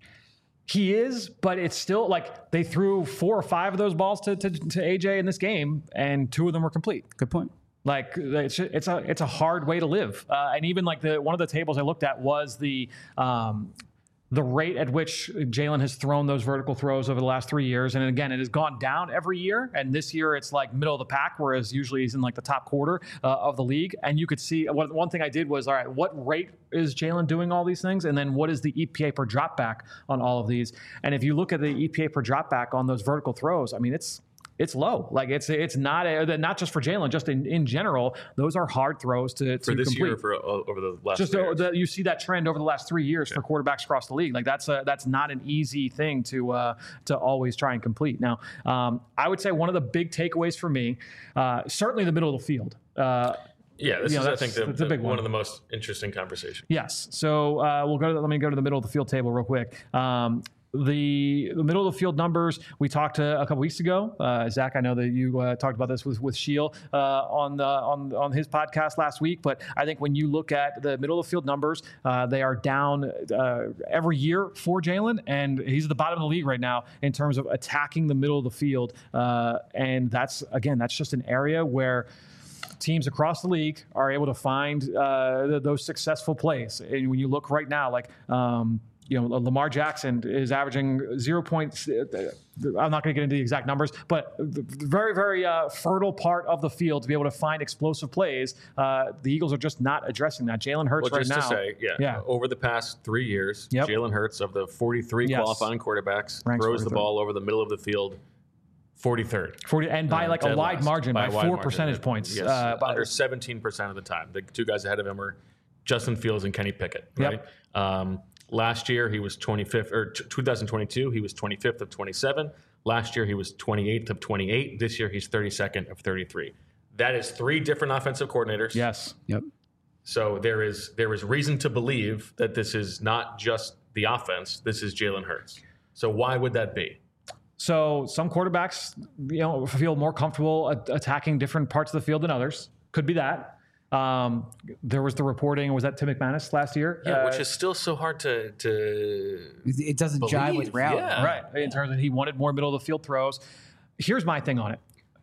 He is, but it's still like they threw four or five of those balls to, to, to A J in this game, and two of them were complete. Good point. Like it's it's a it's a hard way to live, uh, and even like the one of the tables I looked at was the um, the rate at which Jalen has thrown those vertical throws over the last three years, and again, it has gone down every year. And this year, it's like middle of the pack, whereas usually he's in like the top quarter uh, of the league. And you could see one, one thing I did was, all right, what rate is Jalen doing all these things, and then what is the E P A per drop back on all of these? And if you look at the E P A per drop back on those vertical throws, I mean, it's It's low. Like it's it's not a, not just for Jalen, just in, in general. Those are hard throws to, to For this complete. year, for uh, over the last Just three uh, years. the, you see that trend over the last three years for quarterbacks across the league. Like that's a, that's not an easy thing to uh, to always try and complete. Now, um, I would say one of the big takeaways for me, uh, certainly the middle of the field. Uh, Yeah, this You know, is, I that's- think, the, that's a the- big one one. of the most interesting conversations. Yes. So uh, we'll go to, let me go to the middle of the field table real quick. Um, the, the middle of the field numbers we talked uh, a couple weeks ago. Uh, Zach, I know that you uh, talked about this with with Sheil uh, on the, on on his podcast last week. But I think when you look at the middle of the field numbers, uh, they are down uh, every year for Jalen, and he's at the bottom of the league right now in terms of attacking the middle of the field. Uh, and that's again, that's just an area where teams across the league are able to find uh, th- those successful plays. And when you look right now, like, um, you know, Lamar Jackson is averaging zero points. I'm not going to get into the exact numbers, but very, very uh, fertile part of the field to be able to find explosive plays. Uh, the Eagles are just not addressing that. Jalen Hurts Well, right just now. to say, yeah, Yeah. over the past three years, Yep. Jalen Hurts, of the forty-three Yes. qualifying quarterbacks, Ranks throws the forty-third. ball over the middle of the field forty-third. forty, and by Uh, like a dead wide last. margin, by, a wide four margin. percentage points. Yes, uh, by- under seventeen percent of the time. The two guys ahead of him are Justin Fields and Kenny Pickett. Yep. Right. Um, last year he was twenty-fifth, or t- twenty twenty-two he was twenty-fifth of twenty-seven. Last year he was twenty-eighth of twenty-eight. This year he's thirty-second of thirty-three. That is three different offensive coordinators. yes. Yep. So there is there is reason to believe that this is not just the offense. This is Jalen Hurts. So why would that be? So some quarterbacks, you know, feel more comfortable a- attacking different parts of the field than others. Could be that. Um, there was the reporting. Was that Tim McManus last year? Yeah, Uh, which is still so hard to to It doesn't jive with Believe, reality. yeah. right. In terms of he wanted more middle of the field throws. Here's my thing on it.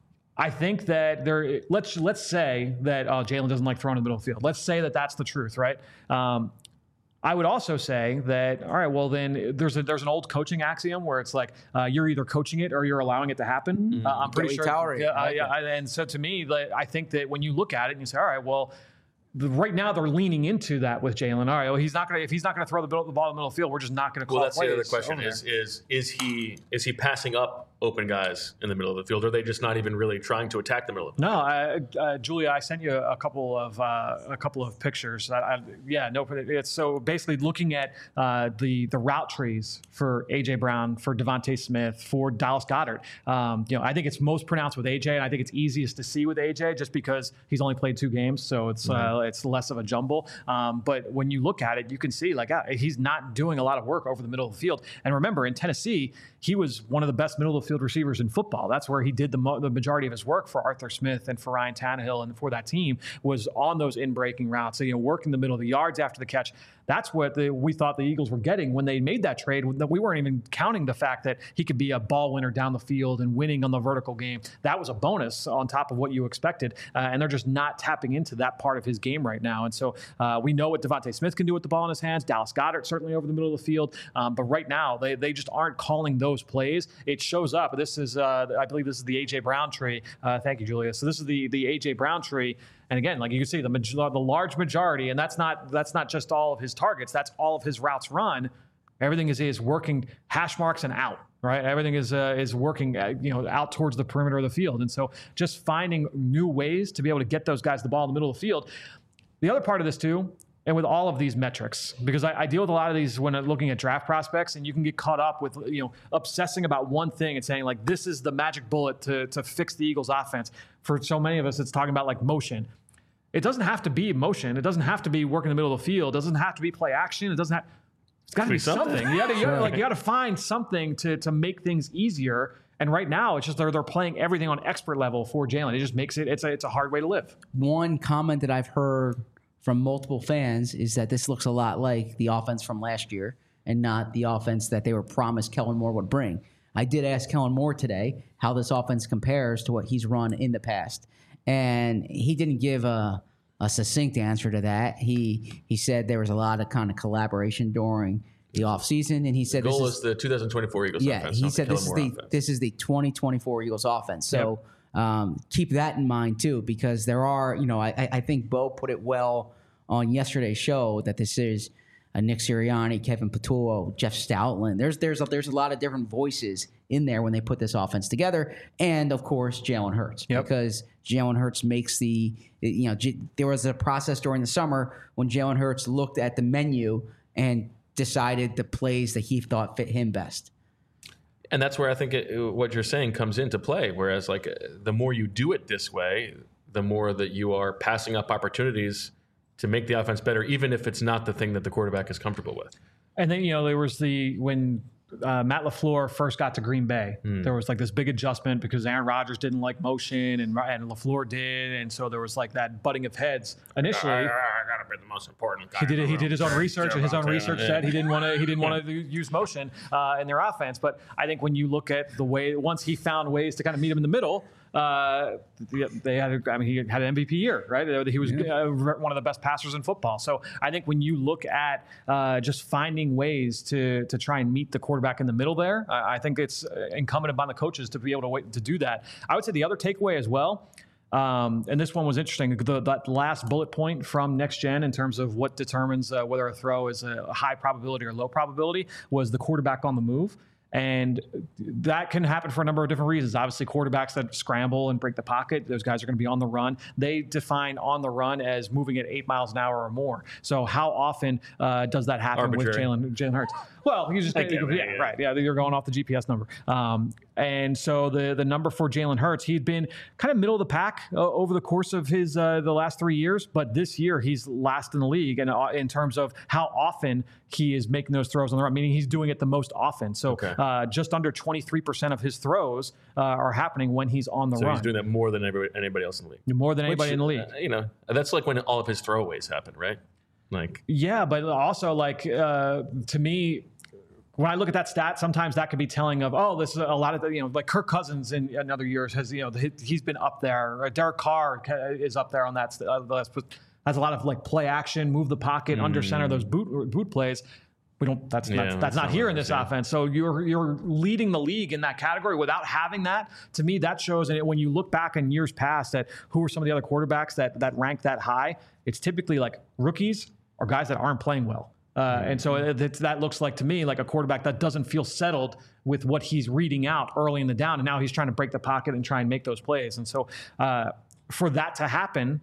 I think that there. Let's let's say that uh, Jalen doesn't like throwing in the middle of the field. Let's say that that's the truth, right? Um, I would also say that, all right, well, then there's a, there's an old coaching axiom where it's like uh, you're either coaching it or you're allowing it to happen. Uh, I'm pretty Joey sure. Towery. Yeah, I like I- I- and so to me, like, I think that when you look at it and you say, all right, well, the, right now they're leaning into that with Jalen. All right, well, he's not going to if he's not going to throw the, middle, the ball in the middle of the field, we're just not going to call well, that's the other plays question over is there. is is he is he passing up open guys in the middle of the field? Or are they just not even really trying to attack the middle of the No, I, uh, Julia, I sent you a couple of uh, a couple of pictures. I, I, yeah, no, it's so basically looking at uh, the the route trees for A J Brown, for Devontae Smith, for Dallas Goedert. Um, you know, I think it's most pronounced with A J, and I think it's easiest to see with A J just because he's only played two games, so it's uh, it's less of a jumble. Um, but when you look at it, you can see like uh, he's not doing a lot of work over the middle of the field. And remember, in Tennessee, he was one of the best middle of the field receivers in football. That's where he did the, mo- the majority of his work for Arthur Smith and for Ryan Tannehill and for that team was on those in-breaking routes. So, you know, working the middle of the yards after the catch. That's what the, we thought the Eagles were getting when they made that trade. We weren't even counting the fact that he could be a ball winner down the field and winning on the vertical game. That was a bonus on top of what you expected. Uh, and they're just not tapping into that part of his game right now. And so uh, we know what Devontae Smith can do with the ball in his hands. Dallas Goedert certainly over the middle of the field. Um, but right now, they, they just aren't calling those plays. It shows up. This is, uh, I believe this is the A J Brown tree. Uh, thank you, Julia. So this is the the A J Brown tree. And again, like you can see, the major, the large majority, and that's not that's not just all of his targets. That's all of his routes run. Everything is is working hash marks and out. Right, everything is uh, is working, uh, you know, out towards the perimeter of the field, and so just finding new ways to be able to get those guys the ball in the middle of the field. The other part of this too, and with all of these metrics, because I, I deal with a lot of these when I'm looking at draft prospects, and you can get caught up with, you know, obsessing about one thing and saying like this is the magic bullet to to fix the Eagles' offense. For so many of us, it's talking about like motion. It doesn't have to be motion. It doesn't have to be work in the middle of the field. It doesn't have to be play action. It doesn't have. It's got to be something. something. You got to, you gotta, like, you got to find something to to make things easier. And right now, it's just they're they're playing everything on expert level for Jalen. It just makes it it's a it's a hard way to live. One comment that I've heard from multiple fans is that this looks a lot like the offense from last year, and not the offense that they were promised Kellen Moore would bring. I did ask Kellen Moore today how this offense compares to what he's run in the past, and he didn't give a. a succinct answer to that. He he said there was a lot of kind of collaboration during the offseason, and he said the goal this is, is the two thousand twenty-four Eagles yeah, offense. Yeah, he said the this is the offense. this is the twenty twenty-four Eagles offense. So yep. um, keep that in mind too, because there are, you know, I I think Bo put it well on yesterday's show that this is a Nick Sirianni, Kevin Patullo, Jeff Stoutland. There's there's a, there's a lot of different voices in there when they put this offense together, and of course Jalen Hurts, yep. because Jalen Hurts makes the, you know, J- there was a process during the summer when Jalen Hurts looked at the menu and decided the plays that he thought fit him best. And that's where I think it, what you're saying comes into play. Whereas, like, the more you do it this way, the more that you are passing up opportunities to make the offense better, even if it's not the thing that the quarterback is comfortable with. And then, you know, there was the when uh, Matt LaFleur first got to Green Bay, mm. there was like this big adjustment because Aaron Rodgers didn't like motion and, and LaFleur did. And so there was like that butting of heads initially. I, I, I got to be the most important guy. He did, he did his own research, and his own research said he didn't want to he didn't want to use motion uh, in their offense. But I think when you look at the way, once he found ways to kind of meet him in the middle, Uh, they had, I mean, he had an M V P year, right? He was yeah. uh, one of the best passers in football. So I think when you look at uh, just finding ways to to try and meet the quarterback in the middle there, I, I think it's incumbent upon the coaches to be able to wait, to do that. I would say the other takeaway as well, um, and this one was interesting, the, that last bullet point from Next Gen in terms of what determines uh, whether a throw is a high probability or low probability was the quarterback on the move. And that can happen for a number of different reasons. Obviously, quarterbacks that scramble and break the pocket, those guys are going to be on the run. They define on the run as moving at eight miles an hour or more. So how often uh, does that happen Arbitrary. with Jalen Jalen Hurts? Well, you just think, yeah, yeah, right, yeah, you're going off the G P S number. Um, and so the the number for Jalen Hurts, he'd been kind of middle of the pack uh, over the course of his uh, the last three years, but this year he's last in the league, and uh, in terms of how often he is making those throws on the run, meaning he's doing it the most often. So okay. uh, just under twenty-three percent of his throws uh, are happening when he's on the so run. So he's doing that more than anybody, anybody else in the league. More than anybody Which, in the league. Uh, you know, that's like when all of his throwaways happen, right? Like yeah, but also like uh, to me, when I look at that stat, sometimes that could be telling of, oh, this is a lot of, the, you know, like Kirk Cousins in another years has, you know, he's been up there. Derek Carr is up there on that list. Has a lot of like play action, move the pocket, mm. under center, those boot boot plays. We don't. That's yeah, not. That's, that's not, not here in this yeah. offense. So you're you're leading the league in that category without having that. To me, that shows. And when you look back in years past, at who are some of the other quarterbacks that that rank that high, it's typically like rookies or guys that aren't playing well. Uh, and so it, it, that looks like to me like a quarterback that doesn't feel settled with what he's reading out early in the down, and now he's trying to break the pocket and try and make those plays. And so uh, for that to happen,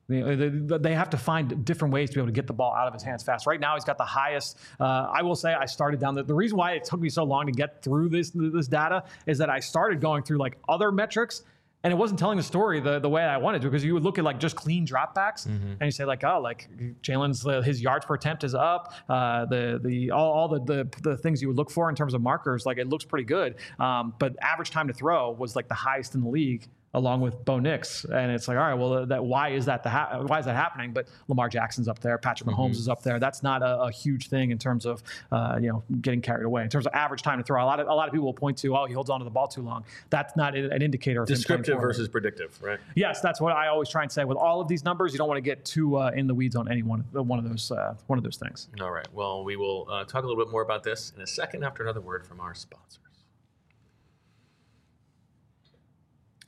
they have to find different ways to be able to get the ball out of his hands fast. Right now, he's got the highest. Uh, I will say I started down the, the reason why it took me so long to get through this this data is that I started going through like other metrics, and it wasn't telling the story the, the way I wanted to, because you would look at like just clean dropbacks mm-hmm. and you say like, oh, like Jalen's uh, his yards per attempt is up. Uh, the the all, all the, the the things you would look for in terms of markers, like it looks pretty good. Um, but average time to throw was like the highest in the league, along with Bo Nix, and it's like, all right, well, that why is that the ha- why is that happening? But Lamar Jackson's up there, Patrick Mahomes mm-hmm. is up there. That's not a, a huge thing in terms of uh, you know getting carried away. In terms of average time to throw, a lot of a lot of people will point to, oh, he holds onto the ball too long. That's not an indicator of descriptive versus predictive, right? Yes, that's what I always try and say. With all of these numbers, you don't want to get too uh, in the weeds on any one one of those uh, one of those things. All right. Well, we will uh, talk a little bit more about this in a second after another word from our sponsors.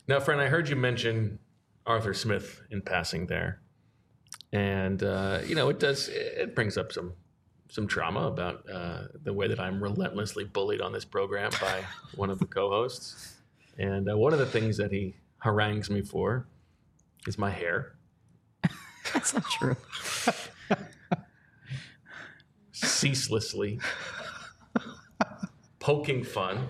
Now, friend, I heard you mention Arthur Smith in passing there. And, uh, you know, it does, it brings up some some trauma about uh, the way that I'm relentlessly bullied on this program by one of the co-hosts. And uh, one of the things that he harangues me for is my hair. That's not true. Ceaselessly poking fun.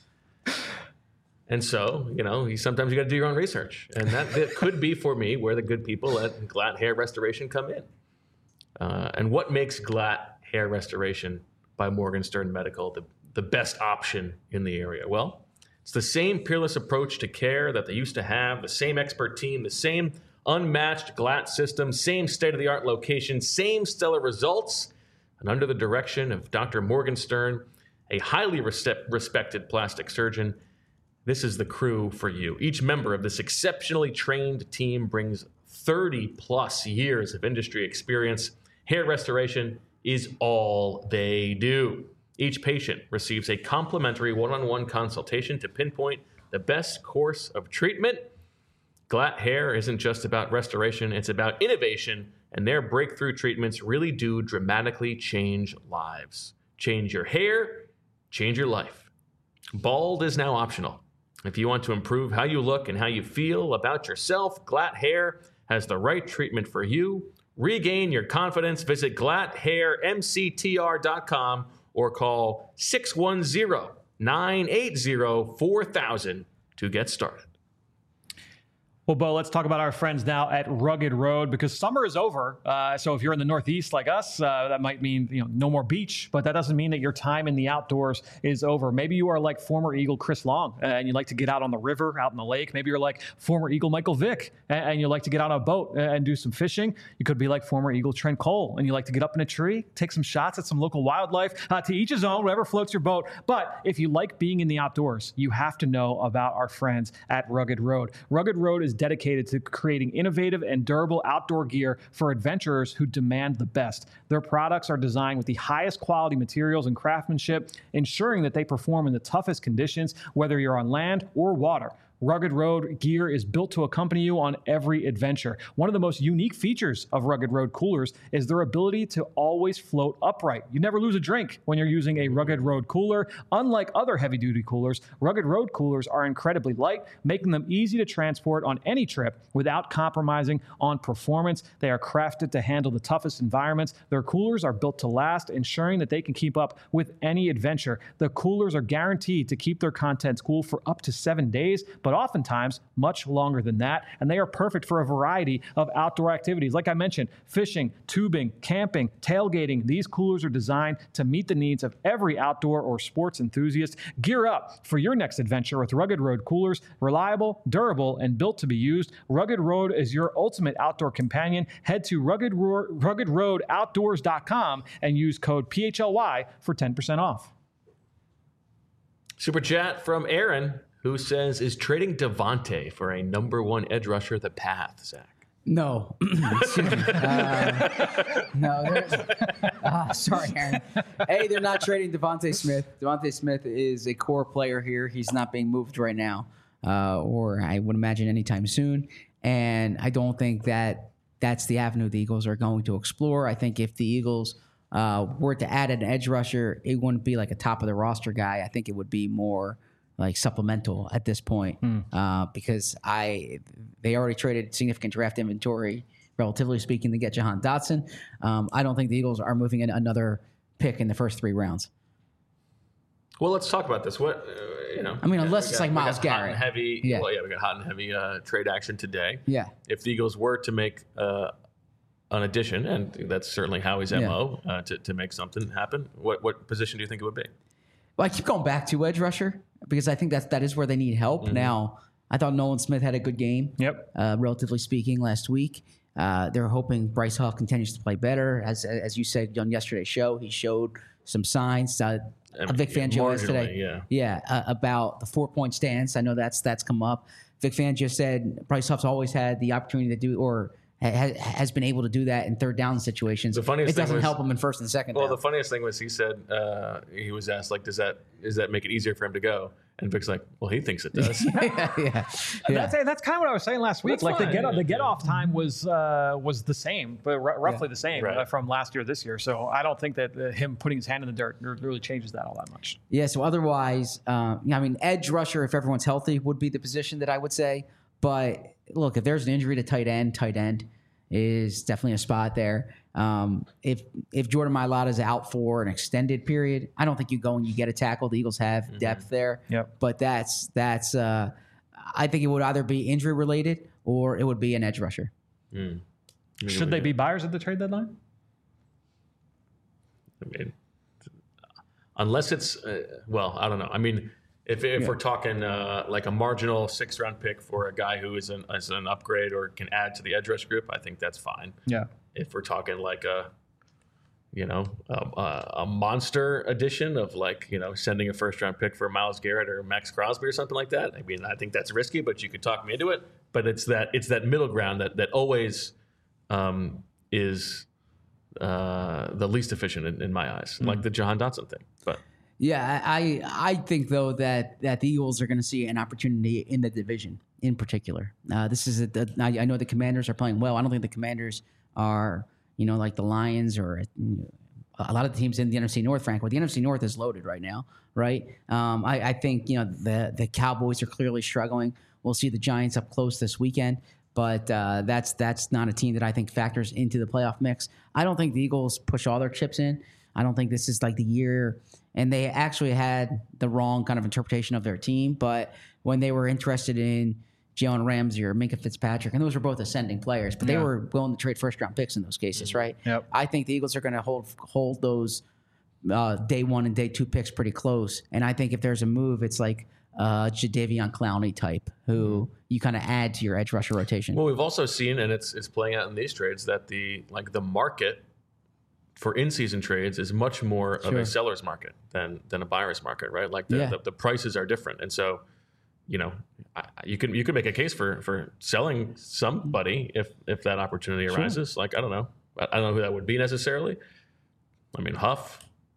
And so, you know, you, sometimes you got to do your own research. And that, that could be for me where the good people at Glatt Hair Restoration come in. Uh, and what makes Glatt Hair Restoration by Morgenstern Medical the, the best option in the area? Well, it's the same peerless approach to care that they used to have, the same expert team, the same unmatched Glatt system, same state-of-the-art location, same stellar results, and under the direction of Doctor Morgenstern, a highly res- respected plastic surgeon. This is the crew for you. Each member of this exceptionally trained team brings thirty plus years of industry experience. Hair restoration is all they do. Each patient receives a complimentary one-on-one consultation to pinpoint the best course of treatment. Glatt Hair isn't just about restoration, it's about innovation, and their breakthrough treatments really do dramatically change lives. Change your hair, change your life. Bald is now optional. If you want to improve how you look and how you feel about yourself, Glatt Hair has the right treatment for you. Regain your confidence. Visit glatt hair m c t r dot com or call six one zero, nine eight zero, four thousand to get started. Well, Bo, let's talk about our friends now at Rugged Road, because summer is over. Uh, so if you're in the Northeast like us, uh, that might mean, you know, no more beach, but that doesn't mean that your time in the outdoors is over. Maybe you are like former Eagle Chris Long uh, and you like to get out on the river, out in the lake. Maybe you're like former Eagle Michael Vick and, and you like to get out on a boat and do some fishing. You could be like former Eagle Trent Cole and you like to get up in a tree, take some shots at some local wildlife. Uh, to each his own, whatever floats your boat. But if you like being in the outdoors, you have to know about our friends at Rugged Road. Rugged Road is dedicated to creating innovative and durable outdoor gear for adventurers who demand the best. Their products are designed with the highest quality materials and craftsmanship, ensuring that they perform in the toughest conditions, whether you're on land or water. Rugged Road gear is built to accompany you on every adventure. One of the most unique features of Rugged Road coolers is their ability to always float upright. You never lose a drink when you're using a Rugged Road cooler. Unlike other heavy-duty coolers, Rugged Road coolers are incredibly light, making them easy to transport on any trip without compromising on performance. They are crafted to handle the toughest environments. Their coolers are built to last, ensuring that they can keep up with any adventure. The coolers are guaranteed to keep their contents cool for up to seven days, but oftentimes much longer than that, and they are perfect for a variety of outdoor activities. Like I mentioned, fishing, tubing, camping, tailgating. These coolers are designed to meet the needs of every outdoor or sports enthusiast. Gear up for your next adventure with Rugged Road coolers. Reliable, durable, and built to be used. Rugged Road is your ultimate outdoor companion. Head to rugged road outdoors dot com and use code P H L Y for ten percent off. Super chat from Aaron, who says, is trading Devontae for a number one edge rusher the path, Zach? No. Excuse me. Uh, no. there's- Uh, sorry, Aaron. A, they're not trading Devontae Smith. Devontae Smith is a core player here. He's not being moved right now, uh, or I would imagine anytime soon. And I don't think that that's the avenue the Eagles are going to explore. I think if the Eagles uh, were to add an edge rusher, it wouldn't be like a top of the roster guy. I think it would be more like supplemental at this point, mm. uh, because I they already traded significant draft inventory, relatively speaking, to get Jahan Dotson. Um, I don't think the Eagles are moving in another pick in the first three rounds. Well, let's talk about this. What uh, you know? I mean, unless got, it's like Myles we got hot Garrett, and heavy. Yeah. Well, yeah, we got hot and heavy uh, trade action today. Yeah. If the Eagles were to make uh, an addition, and that's certainly Howie's M O yeah. uh, to to make something happen, what what position do you think it would be? Well, I keep going back to edge rusher because I think that that is where they need help. Mm-hmm. Now, I thought Nolan Smith had a good game, Yep. uh, relatively speaking, last week. Uh, they're hoping Bryce Hall continues to play better. As as you said on yesterday's show, he showed some signs. Uh, I mean, Vic Fangio yesterday, yeah, yeah uh, about the four-point stance. I know that's that's come up. Vic Fangio said Bryce Huff's always had the opportunity to do or ha- has been able to do that in third down situations. The funniest it doesn't thing was, help him in first and second Well, down. the funniest thing was he said uh, he was asked like, "Does that does that make it easier for him to go?" And Vic's like, "Well, he thinks it does." yeah, yeah, yeah. That's, that's kind of what I was saying last week. That's like the fine. get the get off time was uh, was the same, but r- roughly the same Right. uh, from last year to this year. So I don't think that uh, him putting his hand in the dirt really changes that all that much. Yeah, so otherwise, uh, I mean, edge rusher, if everyone's healthy, would be the position that I would say. But look, if there's an injury to tight end, tight end is definitely a spot there. Um, if if Jordan Mailata is out for an extended period, I don't think you go and you get a tackle. The Eagles have mm-hmm. depth there. Yep. But that's that's. Uh, I think it would either be injury related or it would be an edge rusher. Mm. Should they be buyers at the trade deadline? I mean, unless it's uh, well, I don't know. I mean, if if Yeah. we're talking uh, like a marginal sixth round pick for a guy who is an is an upgrade or can add to the edge rush group, I think that's fine. Yeah. If we're talking like a, you know, a, a monster addition of like, you know, sending a first round pick for Myles Garrett or Max Crosby or something like that. I mean, I think that's risky, but you could talk me into it. But it's that it's that middle ground that that always um, is uh, the least efficient in, in my eyes, mm-hmm. like the Jahan Dotson thing. But yeah, I I think though that that the Eagles are going to see an opportunity in the division in particular. Uh, this is a, a, I I know the Commanders are playing well. I don't think the Commanders are, you know, like the Lions or you know, a lot of the teams in the N F C North, Frank. But the N F C North is loaded right now, right? Um, I, I think, you know, the the Cowboys are clearly struggling. We'll see the Giants up close this weekend, but uh, that's that's not a team that I think factors into the playoff mix. I don't think the Eagles push all their chips in. I don't think this is like the year, and they actually had the wrong kind of interpretation of their team. But when they were interested in Jalen Ramsey or Minkah Fitzpatrick, and those were both ascending players, but they Yeah. were willing to trade first-round picks in those cases, right? Yep. I think the Eagles are going to hold hold those uh, day one and day two picks pretty close, and I think if there's a move, it's like uh, Jadeveon Clowney type, who you kind of add to your edge rusher rotation. Well, we've also seen, and it's it's playing out in these trades, that the like the market for in-season trades is much more Sure. of a seller's market than than a buyer's market, right? Like the, Yeah. the, the prices are different, and so you know I, you can you can make a case for for selling somebody if if that opportunity Sure. arises. Like I don't know, I, I don't know who that would be necessarily. I mean, Huff,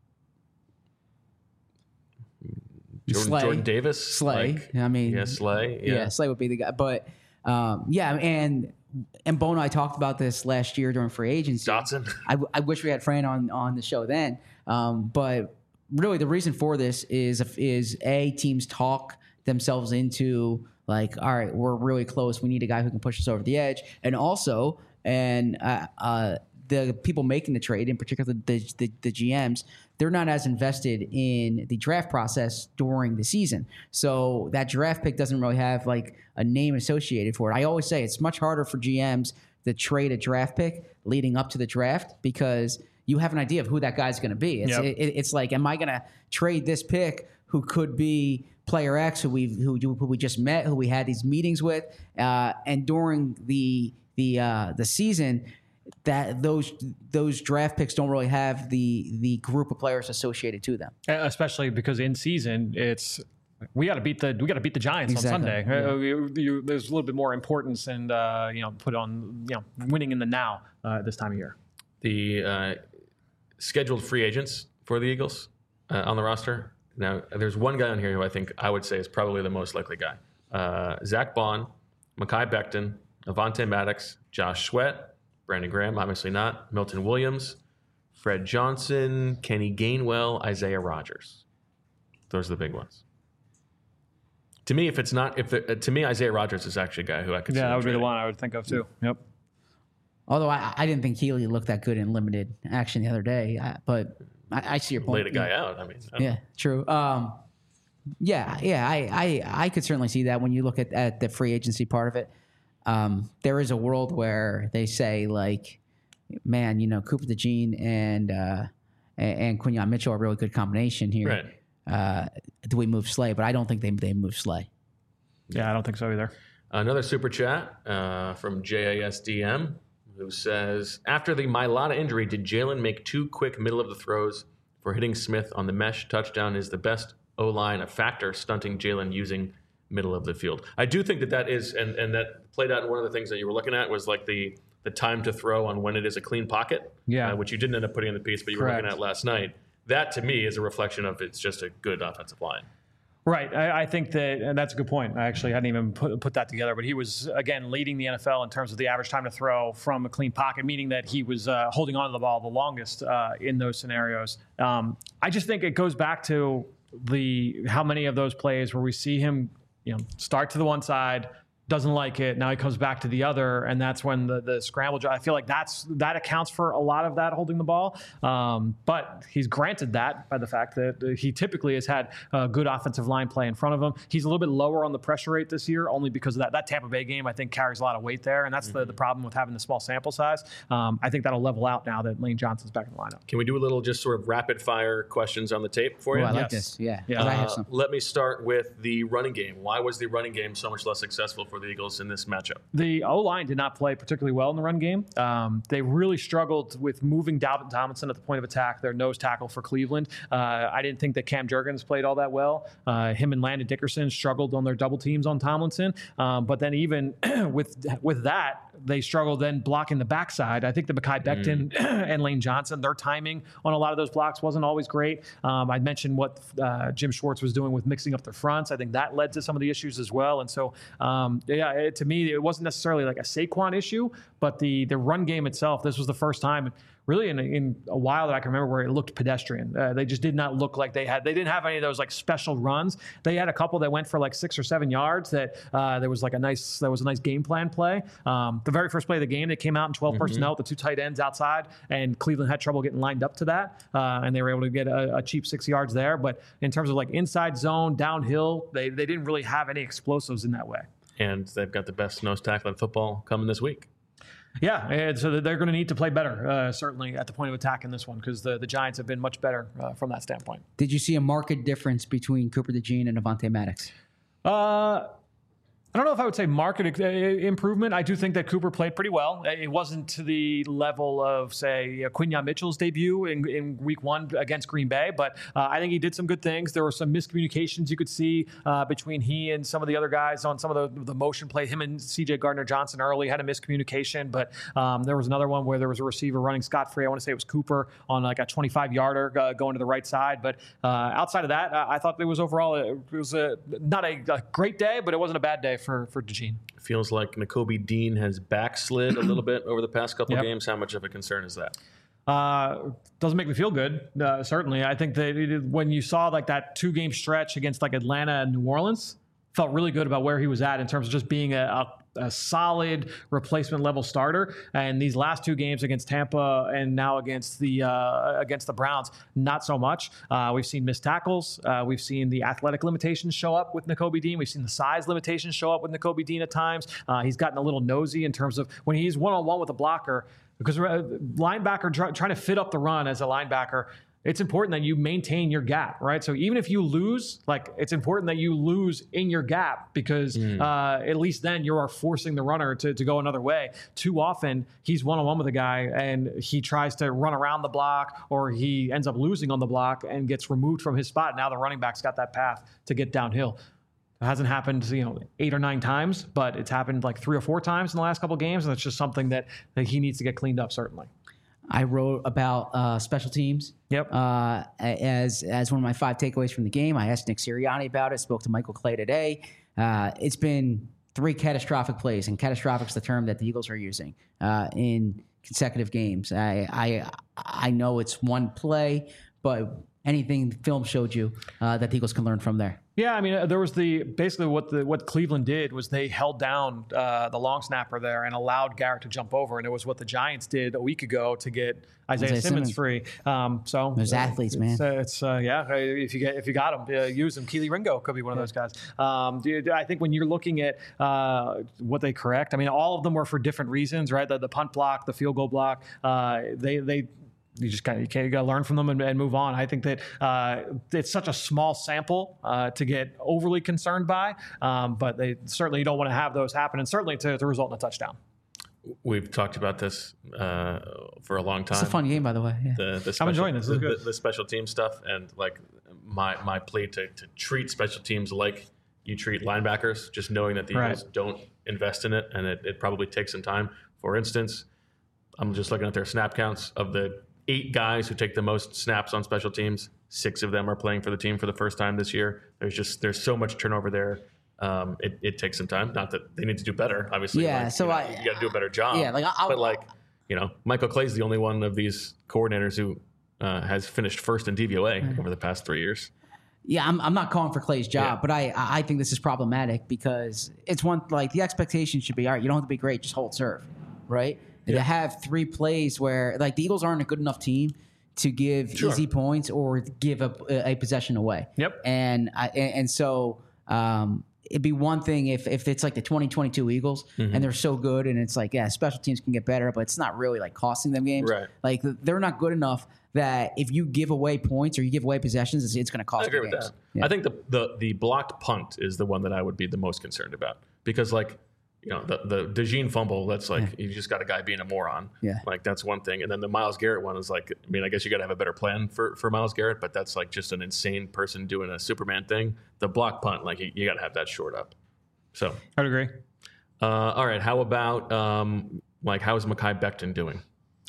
Jordan, Slay. Jordan Davis, Slay. like, I mean, yeah, Slay, yeah. yeah. Slay would be the guy. But um, yeah, and and Bo and I talked about this last year during free agency. Dotson. I, I wish we had Fran on on the show then. Um, but really, the reason for this is is a teams talk themselves into like, all right, we're really close. We need a guy who can push us over the edge, and also, and uh, uh, the people making the trade, in particular the, the the G Ms, they're not as invested in the draft process during the season. So that draft pick doesn't really have like a name associated for it. I always say it's much harder for G Ms to trade a draft pick leading up to the draft because you have an idea of who that guy's going to be. It's, Yep. it, it's like, am I going to trade this pick who could be player X who we who, who we just met, who we had these meetings with, uh, and during the the uh, the season, that those those draft picks don't really have the the group of players associated to them. Especially because in season, it's we got to beat the we got to beat the Giants Exactly. on Sunday. Yeah. Uh, you, you, there's a little bit more importance and uh, you know put on you know winning in the now uh, this time of year. The uh, scheduled free agents for the Eagles uh, on the roster. Now, there's one guy on here who I think I would say is probably the most likely guy. Uh, Zach Bond, Mekhi Becton, Avonte Maddox, Josh Sweat, Brandon Graham, obviously not, Milton Williams, Fred Johnson, Kenny Gainwell, Isaiah Rodgers. Those are the big ones. To me, if it's not, if the, uh, to me, Isaiah Rodgers is actually a guy who I could see Yeah, that would be the trading. one I would think of too. Yep. Although I, I didn't think Healy looked that good in limited action the other day, I, but I, I see your point. Laid a guy out. I mean, I don't Yeah, know. true. Um, yeah, yeah, I, I, I could certainly see that when you look at, at the free agency part of it. Um, there is a world where they say like, man, you know, Cooper DeJean and uh, and, and Quinyon Mitchell are a really good combination here. Right. Uh, do we move Slay? But I don't think they they move Slay. Yeah, I don't think so either. Another super chat uh, from J A S D M who says, after the Mailata injury, did Jalen make two quick middle of the throws for hitting Smith on the mesh touchdown? Is the best O-line a factor stunting Jalen using middle of the field? I do think that that is, and, and that played out in one of the things that you were looking at was like the the time to throw on when it is a clean pocket, Yeah. uh, which you didn't end up putting in the piece, but you Correct. were looking at last night. That to me is a reflection of it's just a good offensive line. Right. I, I think that, and that's a good point. I actually hadn't even put, put that together, but he was, again, leading the N F L in terms of the average time to throw from a clean pocket, meaning that he was uh, holding on to the ball the longest uh, in those scenarios. Um, I just think it goes back to the how many of those plays where we see him, you know, start to the one side, doesn't like it. Now he comes back to the other, and that's when the, the scramble. I feel like that's that accounts for a lot of that holding the ball. Um, but he's granted that by the fact that he typically has had a good offensive line play in front of him. He's a little bit lower on the pressure rate this year, only because of that. That Tampa Bay game, I think, carries a lot of weight there, and that's mm-hmm. the, the problem with having the small sample size. Um, I think that'll level out now that Lane Johnson's back in the lineup. Can we do a little just sort of rapid fire questions on the tape for you? Oh, I like Yes. this. Yeah. Yeah. Uh, I Uh, have some. let me start with the running game. Why was the running game so much less successful for the Eagles in this matchup? The O-line did not play particularly well in the run game. Um, they really struggled with moving Dalvin Tomlinson at the point of attack, their nose tackle for Cleveland. Uh, I didn't think that Cam Jurgens played all that well. Uh, him and Landon Dickerson struggled on their double teams on Tomlinson. Um, but then even with with that, they struggled then blocking the backside. I think the Mekhi Becton mm. and Lane Johnson, their timing on a lot of those blocks wasn't always great. Um, I mentioned what uh, Jim Schwartz was doing with mixing up their fronts. I think that led to some of the issues as well. And so, um, yeah, it, to me, it wasn't necessarily like a Saquon issue, but the the run game itself, this was the first time really in, in a while that I can remember where it looked pedestrian. Uh, they just did not look like they had, they didn't have any of those like special runs. They had a couple that went for like six or seven yards that uh, there was like a nice, there was a nice game plan play. Um, the very first play of the game, they came out in twelve mm-hmm. personnel with the two tight ends outside, and Cleveland had trouble getting lined up to that. Uh, and they were able to get a, a cheap six yards there. But in terms of like inside zone, downhill, they, they didn't really have any explosives in that way. And they've got the best nose tackle in football coming this week. Yeah, and so they're going to need to play better, uh, certainly at the point of attack in this one, because the, the Giants have been much better uh, from that standpoint. Did you see a marked difference between Cooper DeJean and Avonte Maddox? Uh, I don't know if I would say market improvement. I do think that Cooper played pretty well. It wasn't to the level of, say, Quinyon Mitchell's debut in, in week one against Green Bay, but uh, I think he did some good things. There were some miscommunications you could see uh, between he and some of the other guys on some of the, the motion play. Him and C J Gardner-Johnson early had a miscommunication, but um, there was another one where there was a receiver running scot-free. I want to say it was Cooper on like a twenty-five yarder uh, going to the right side. But uh, outside of that, uh, I thought it was overall, a, it was a, not a, a great day, but it wasn't a bad day for, for DeJean. Feels like Nakobe Dean has backslid a little bit over the past couple Yep. games. How much of a concern is that? Uh, doesn't make me feel good. Uh, certainly, I think that it, when you saw like that two-game stretch against like Atlanta and New Orleans, felt really good about where he was at in terms of just being a, a, a solid replacement level starter. And these last two games against Tampa and now against the uh, against the Browns, not so much. Uh, we've seen missed tackles. Uh, we've seen the athletic limitations show up with Nakobe Dean. We've seen the size limitations show up with Nakobe Dean at times. Uh, he's gotten a little nosy in terms of when he's one-on-one with a blocker, because linebacker try, trying to fit up the run as a linebacker, it's important that you maintain your gap, right? So even if you lose, like it's important that you lose in your gap because mm. uh, at least then you are forcing the runner to, to go another way. Too often he's one-on-one with a guy and he tries to run around the block or he ends up losing on the block and gets removed from his spot. Now the running back's got that path to get downhill. It hasn't happened, you know, eight or nine times, but it's happened like three or four times in the last couple of games, and it's just something that, that he needs to get cleaned up, certainly. I wrote about uh, special teams. Yep. Uh, as as one of my five takeaways from the game, I asked Nick Sirianni about it. Spoke to Michael Clay today. Uh, it's been three catastrophic plays, and catastrophic is the term that the Eagles are using uh, in consecutive games. I I I know it's one play, but anything the film showed you uh, that the Eagles can learn from there. Yeah, I mean, there was the basically what the what Cleveland did was they held down uh, the long snapper there and allowed Garrett to jump over, and it was what the Giants did a week ago to get Isaiah, Isaiah Simmons, Simmons free. Um, so those uh, athletes, man. It's, uh, it's uh, yeah. If you get if you got them, uh, use them. Keely Ringo could be one of those guys. Um, dude, I think when you're looking at uh, what they correct, I mean, all of them were for different reasons, right? The, the punt block, the field goal block. Uh, they they. You just kind of you, can't, you got to learn from them and, and move on. I think that uh, it's such a small sample uh, to get overly concerned by, um, but they certainly don't want to have those happen, and certainly to, to result in a touchdown. We've talked about this uh, for a long time. It's a fun game, by the way. Yeah. The, the special, I'm enjoying this. this the, the, the special team stuff, and like my my plea to, to treat special teams like you treat linebackers, just knowing that the Eagles right. don't invest in it, and it, it probably takes some time. For instance, I'm just looking at their snap counts of the eight guys who take the most snaps on special teams. Six of them are playing for the team for the first time this year. There's just there's so much turnover there. Um, it, it takes some time. Not that they need to do better, obviously. Yeah, like, so you know, I- you got to do a better job. Yeah, like, I'll- but like you know, Michael Clay's the only one of these coordinators who uh, has finished first in D V O A over the past three years. Yeah, I'm, I'm not calling for Clay's job, Yeah. but I I think this is problematic because it's one like the expectation should be all right. You don't have to be great, just hold serve, right? Yeah. To have three plays where like the Eagles aren't a good enough team to give Sure. easy points or give a, a possession away. Yep. And I, and, and so um, it'd be one thing if if it's like the twenty twenty-two Eagles Mm-hmm. and they're so good and it's like yeah, special teams can get better, but it's not really like costing them games. Right. Like they're not good enough that if you give away points or you give away possessions, it's, it's going to cost I agree you with games. that. Yeah. I think the, the the blocked punt is the one that I would be the most concerned about because, like, you know, the the DeJean fumble. That's like you just got a guy being a moron. Yeah. Like that's one thing, and then the Myles Garrett one is like, I mean, I guess you got to have a better plan for for Myles Garrett, but that's like just an insane person doing a Superman thing. The block punt, like you, you got to have that short up. So, I'd agree. uh, all right, how about um, like how is Mekhi Becton doing?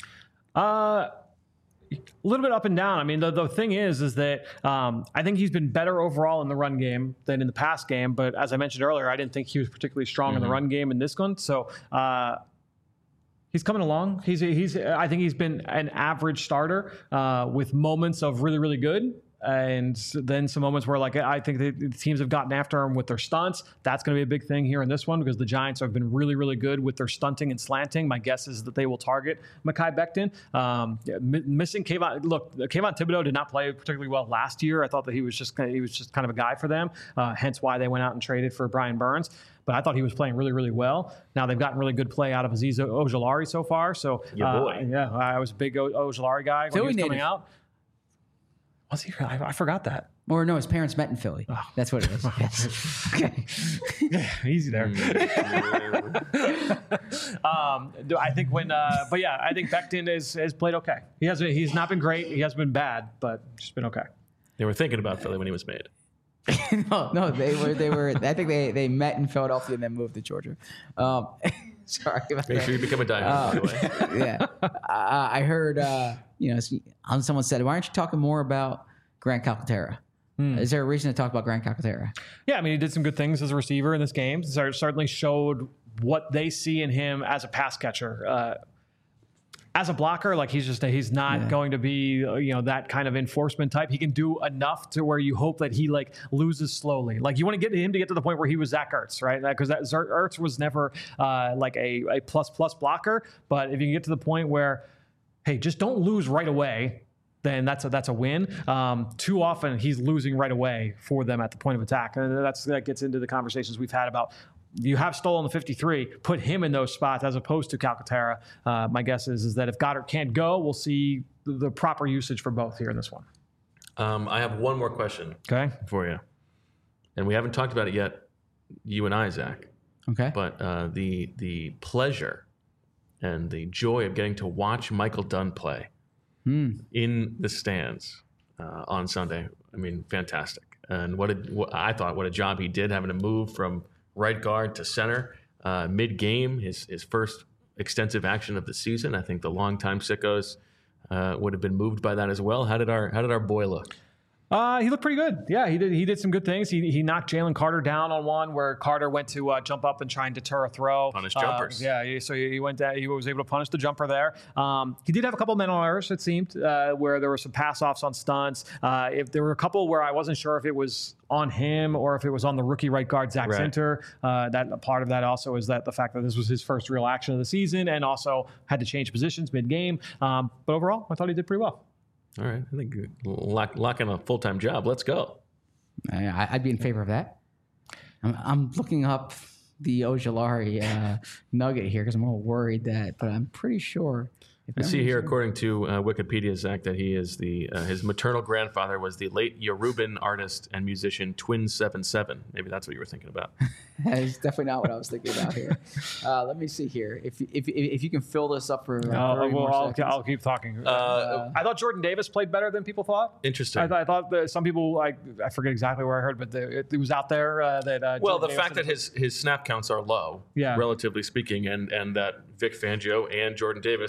Uh, a little bit up and down. I mean, the, the thing is, is that um, I think he's been better overall in the run game than in the pass game. But as I mentioned earlier, I didn't think he was particularly strong in the run game in this one. So uh, he's coming along. He's he's. I think he's been an average starter uh, with moments of really really good. And then some moments where, like, I think the the teams have gotten after him with their stunts. That's going to be a big thing here in this one because the Giants have been really, really good with their stunting and slanting. My guess is that they will target Mekhi Becton. Um, yeah, mi- missing Kayvon. Look, Kayvon Thibodeau did not play particularly well last year. I thought that he was just kind of, he was just kind of a guy for them. Uh, hence why they went out and traded for Brian Burns. But I thought he was playing really, really well. Now they've gotten really good play out of Azeez Ojulari so far. So Your uh, boy. yeah, I was a big o- Ojulari guy when Philly he was coming native. out. Was he? I, I forgot that. Or no, his parents met in Philly. That's what it is. Yes. Okay. Easy there. um, do- I think when, uh, but yeah, I think Becton is, has played okay. He has. He's not been great. He has been bad, but just been okay. They were thinking about Philly when he was made. no, no, they were they were. I think they they met in Philadelphia and then moved to Georgia. Um, sorry about Make that. sure you become a diamond, by the way. yeah, uh, I heard. Uh, you know, someone said, "Why aren't you talking more about Grant Calcaterra?" Is there a reason to talk about Grant Calcaterra? Yeah, I mean, he did some good things as a receiver in this game. Cer- Certainly showed what they see in him as a pass catcher. Uh, as a blocker, like he's just he's not Yeah. going to be uh, you know that kind of enforcement type. He can do enough to where you hope that he like loses slowly. Like you want to get him to get to the point where he was Zach Ertz, right? Because that Zer- Ertz was never uh, like a, a plus plus blocker. But if you can get to the point where, hey, just don't lose right away, then that's a, that's a win. Um, too often he's losing right away for them at the point of attack. And that's, that gets into the conversations we've had about you have Stoll on the fifty-three, put him in those spots as opposed to Calcaterra. Uh, my guess is, is that if Goddard can't go, we'll see the, the proper usage for both here in this one. Um, I have one more question Okay. for you. And we haven't talked about it yet, you and I, Zach. Okay. But uh, the the pleasure and the joy of getting to watch Michael Dunn play in the stands uh, on Sunday, I mean, fantastic. And what, a, what I thought, what a job he did having to move from right guard to center uh, mid-game, his his first extensive action of the season. I think the longtime sickos uh, would have been moved by that as well. How did our how did our boy look? Uh, he looked pretty good. Yeah, he did. He did some good things. He he knocked Jalen Carter down on one where Carter went to uh, jump up and try and deter a throw. Punish Uh, jumpers. yeah, he, so he went. Down, he was able to punish the jumper there. Um, he did have a couple mental errors. It seemed uh, where there were some pass offs on stunts. Uh, if there were a couple where I wasn't sure if it was on him or if it was on the rookie right guard Zach Right. Zinter. Uh, that part of that also is that the fact that this was his first real action of the season and also had to change positions mid game. Um, but overall, I thought he did pretty well. All right, I think lock, lock in a full-time job. Let's go. I, I'd be in favor of that. I'm, I'm looking up the Ojulari uh, nugget here because I'm a little worried that, but I'm pretty sure. If I see memory here, serves- according to uh, Wikipedia, Zach, that he is the uh, his maternal grandfather was the late Yoruban artist and musician Twin Seven Seven. Maybe that's what you were thinking about. That is definitely not what I was thinking about here. Uh, let me see here. If if if you can fill this up for uh, I'll, thirty more I'll, seconds. I'll keep talking. Uh, I thought Jordan Davis played better than people thought. interesting. I, th- I thought that some people, like, I forget exactly where I heard, but the, it, it was out there uh, that. Uh, well, Jordan the Davis fact that his his snap counts are low, Yeah. relatively speaking, and and that Vic Fangio and Jordan Davis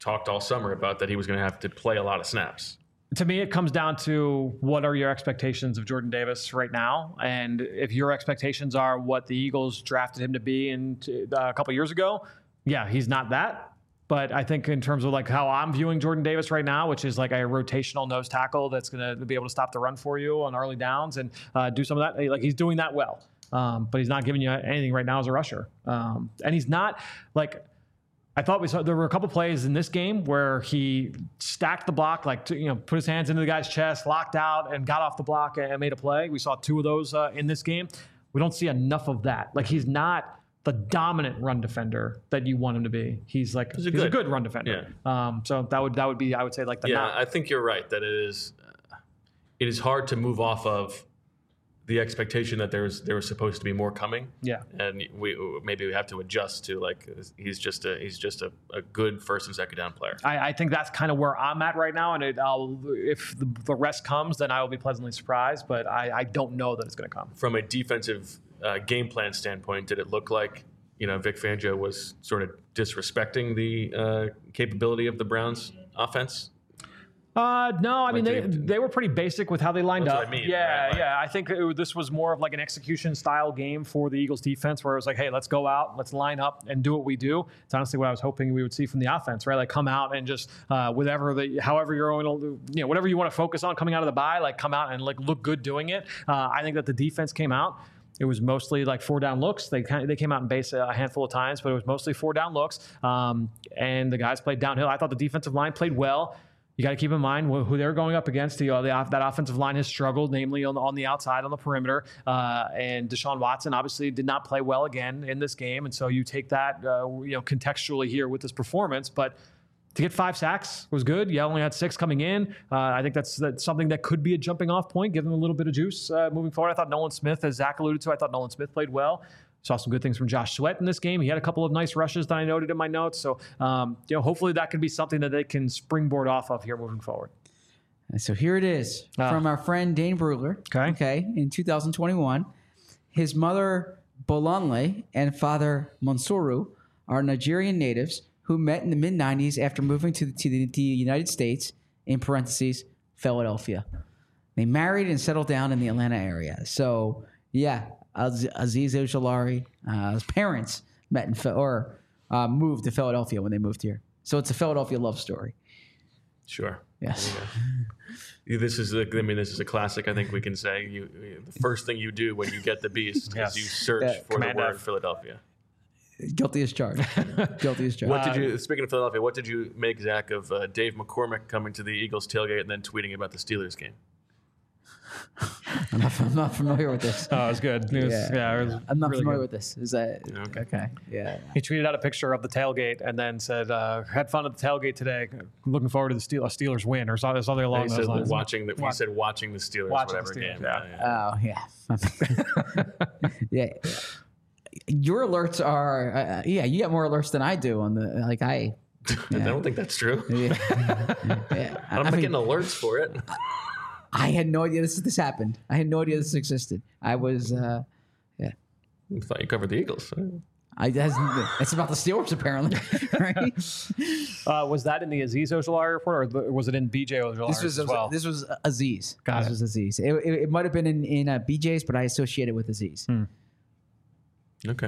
talked all summer about that he was going to have to play a lot of snaps. To me, it comes down to what are your expectations of Jordan Davis right now? And if your expectations are what the Eagles drafted him to be in uh, a couple years ago, yeah, he's not that. But I think in terms of like how I'm viewing Jordan Davis right now, which is like a rotational nose tackle that's going to be able to stop the run for you on early downs and uh, do some of that, like he's doing that well. Um, but he's not giving you anything right now as a rusher. Um, and he's not like, I thought we saw, there were a couple plays in this game where he stacked the block, like, to, you know, put his hands into the guy's chest, locked out and got off the block and made a play. We saw two of those uh, in this game. We don't see enough of that. Like he's not the dominant run defender that you want him to be. He's like, he's a, he's good. a good run defender. Yeah. Um, so that would, that would be, I would say like the, yeah, not, I think you're right that it is, uh, it is hard to move off of the expectation that there's there was supposed to be more coming. Yeah, and we maybe we have to adjust to like he's just a he's just a, a good first and second down player. I, I think that's kind of where I'm at right now, and it, I'll, if the, the rest comes, then I will be pleasantly surprised. But I, I don't know that it's going to come. From a defensive uh, game plan standpoint, did it look like you know Vic Fangio was sort of disrespecting the uh, capability of the Browns offense? Uh, no, I mean, they, they were pretty basic with how they lined That's up. What I mean, yeah, right? Like, yeah. I think it, this was more of like an execution style game for the Eagles defense where it was like, hey, let's go out, let's line up and do what we do. It's honestly what I was hoping we would see from the offense, right? Like come out and just, uh, whatever the, however you're going to, you know, whatever you want to focus on coming out of the bye, like come out and like look good doing it. Uh, I think that the defense came out. It was mostly like four down looks. They kind of, they came out in base a handful of times, but it was mostly four down looks. Um, and the guys played downhill. I thought the defensive line played well. You got to keep in mind who they're going up against. The, uh, the that offensive line has struggled, namely on the, on the outside, on the perimeter. Uh, and Deshaun Watson obviously did not play well again in this game. And so you take that, uh, you know, contextually here with this performance. But to get five sacks was good. You only had six coming in. Uh, I think that's, that's something that could be a jumping off point, give them a little bit of juice uh, moving forward. I thought Nolan Smith, as Zach alluded to, I thought Nolan Smith played well. Saw some good things from Josh Sweat in this game. He had a couple of nice rushes that I noted in my notes. So, um, you know, hopefully that could be something that they can springboard off of here moving forward. And so here it is uh, from our friend Dane Brugler. Okay. Okay. In two thousand twenty-one, his mother Bolanle and father Monsuru are Nigerian natives who met in the mid nineties after moving to the, to the, the United States, in parentheses, Philadelphia. They married and settled down in the Atlanta area. So, yeah. Azeez Ojulari, uh, his parents met in or uh, moved to Philadelphia when they moved here. So it's a Philadelphia love story. Sure. Yes. Yeah. This is, a, I mean, this is a classic. I think we can say you. The first thing you do when you get the beast yes. is you search yeah. for Command the word F. Philadelphia. Guilty as charged. Guilty as charged. What did you? Speaking of Philadelphia, what did you make, Zach, of uh, Dave McCormick coming to the Eagles tailgate and then tweeting about the Steelers game? I'm not, I'm not familiar with this. Oh, it was good. It was, yeah, yeah it was I'm not really familiar good. with this. Is that okay? Okay, yeah. He tweeted out a picture of the tailgate and then said, uh, "Had fun at the tailgate today. Looking forward to the Steel- Steelers win," or something along those lines. Watching the, he said, "Watching the Steelers, watching whatever the Steelers, game." Yeah. yeah. Oh yeah. yeah. Your alerts are uh, yeah. You got more alerts than I do on the like I. Yeah. I don't think that's true. Yeah. yeah. I'm I not mean, getting alerts for it. I had no idea this this happened. I had no idea this existed. I was, uh, yeah. I thought you covered the Eagles. I that's, it's about the Steelers apparently, right? Uh, was that in the Azeez Ojulari report, or was it in B J Ojulari this was, as well? This was Azeez. Got this it. was Azeez. It, it, it might have been in in uh, B J's, but I associate it with Azeez. Hmm. Okay.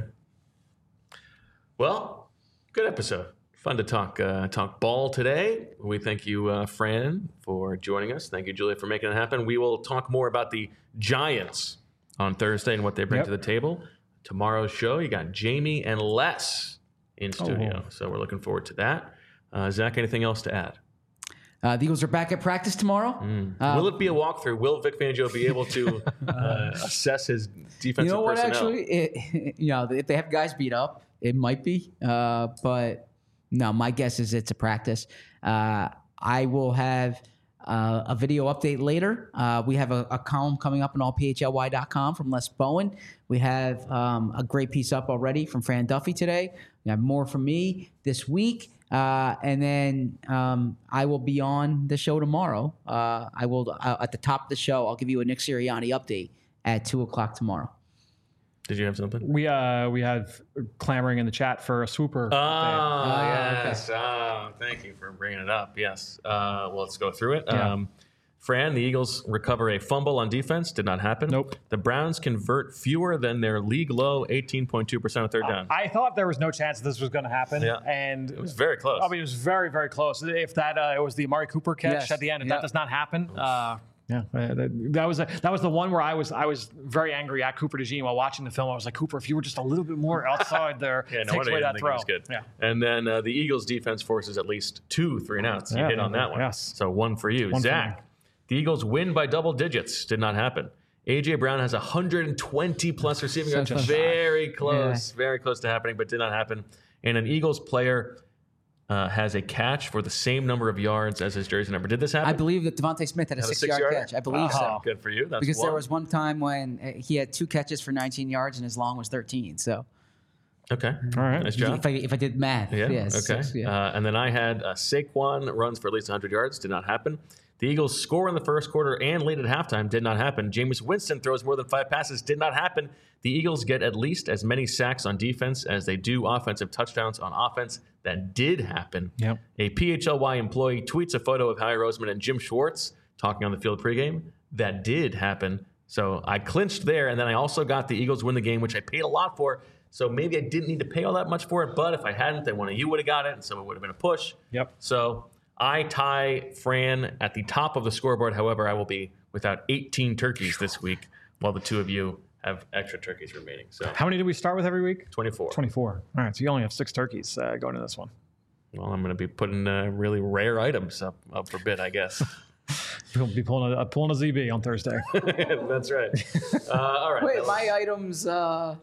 Well, good episode. Fun to talk uh, talk ball today. We thank you, uh, Fran, for joining us. Thank you, Julia, for making it happen. We will talk more about the Giants on Thursday and what they bring yep. to the table. Tomorrow's show, you got Jamie and Les in studio. Oh. So we're looking forward to that. Uh, Zach, anything else to add? Uh, the Eagles are back at practice tomorrow. Mm. Uh, Will it be a walkthrough? Will Vic Fangio be able to uh, assess his defensive You know what, personnel? actually? It, you know, if they have guys beat up, it might be. Uh, but... No, my guess is it's a practice. Uh, I will have uh, a video update later. Uh, we have a, a column coming up on all P H L Y dot com from Les Bowen. We have um, a great piece up already from Fran Duffy today. We have more from me this week. Uh, and then um, I will be on the show tomorrow. Uh, I will uh, at the top of the show, I'll give you a Nick Sirianni update at two o'clock tomorrow. Did you have something? We uh we had clamoring in the chat for a swooper. Oh, Ah, yes. Oh, thank you for bringing it up. Yes. Uh, well, let's go through it. Yeah. Um, Fran, the Eagles recover a fumble on defense. Did not happen. Nope. The Browns convert fewer than their league low eighteen point two percent of third down. I thought there was no chance this was going to happen. Yeah. And It was very close. I mean, it was very, very close. If that uh, it was the Amari Cooper catch Yes. at the end, if Yep. that does not happen, uh, yeah, uh, that, that was a, that was the one where I was I was very angry at Cooper DeJean while watching the film. I was like, Cooper, if you were just a little bit more outside there, yeah, no takes wonder away you that didn't think it throw. was good. Yeah. And then uh, the Eagles defense forces at least two three and outs. You Yeah, hit on that one. yes. So one for you. One for Zach, me. the Eagles win by double digits. Did not happen. A J. Brown has one hundred twenty plus receiving yards. Such a Very close. Very close to happening, but did not happen. And an Eagles player uh, has a catch for the same number of yards as his jersey number. Did this happen? I believe that Devontae Smith had a Had a six-yard six-yarder? catch. I believe Oh. so. Good for you. That's Because one. there was one time when uh, he had two catches for nineteen yards and his long was thirteen. So Okay. All right. Nice job. if I, if I did math, Yeah. yeah, okay. six, yeah. Uh, and then I had uh, Saquon runs for at least one hundred yards. Did not happen. The Eagles score in the first quarter and lead at halftime. Did not happen. Jameis Winston throws more than five passes. Did not happen. The Eagles get at least as many sacks on defense as they do offensive touchdowns on offense. That did happen. Yep. A P H L Y employee tweets a photo of Howie Roseman and Jim Schwartz talking on the field pregame. That did happen. So I clinched there, and then I also got the Eagles win the game, which I paid a lot for. So maybe I didn't need to pay all that much for it, but if I hadn't, then one of you would have got it, and so it would have been a push. Yep. So I tie Fran at the top of the scoreboard. However, I will be without eighteen turkeys this week, while the two of you have extra turkeys remaining. So How many do we start with every week? twenty-four. twenty-four. All right. So you only have six turkeys uh, going to this one. Well, I'm going to be putting uh, really rare items up, up for bid, I guess. We'll be pulling a, pulling a Z B on Thursday. That's right. Uh, all right. Wait, Well, my items. Uh,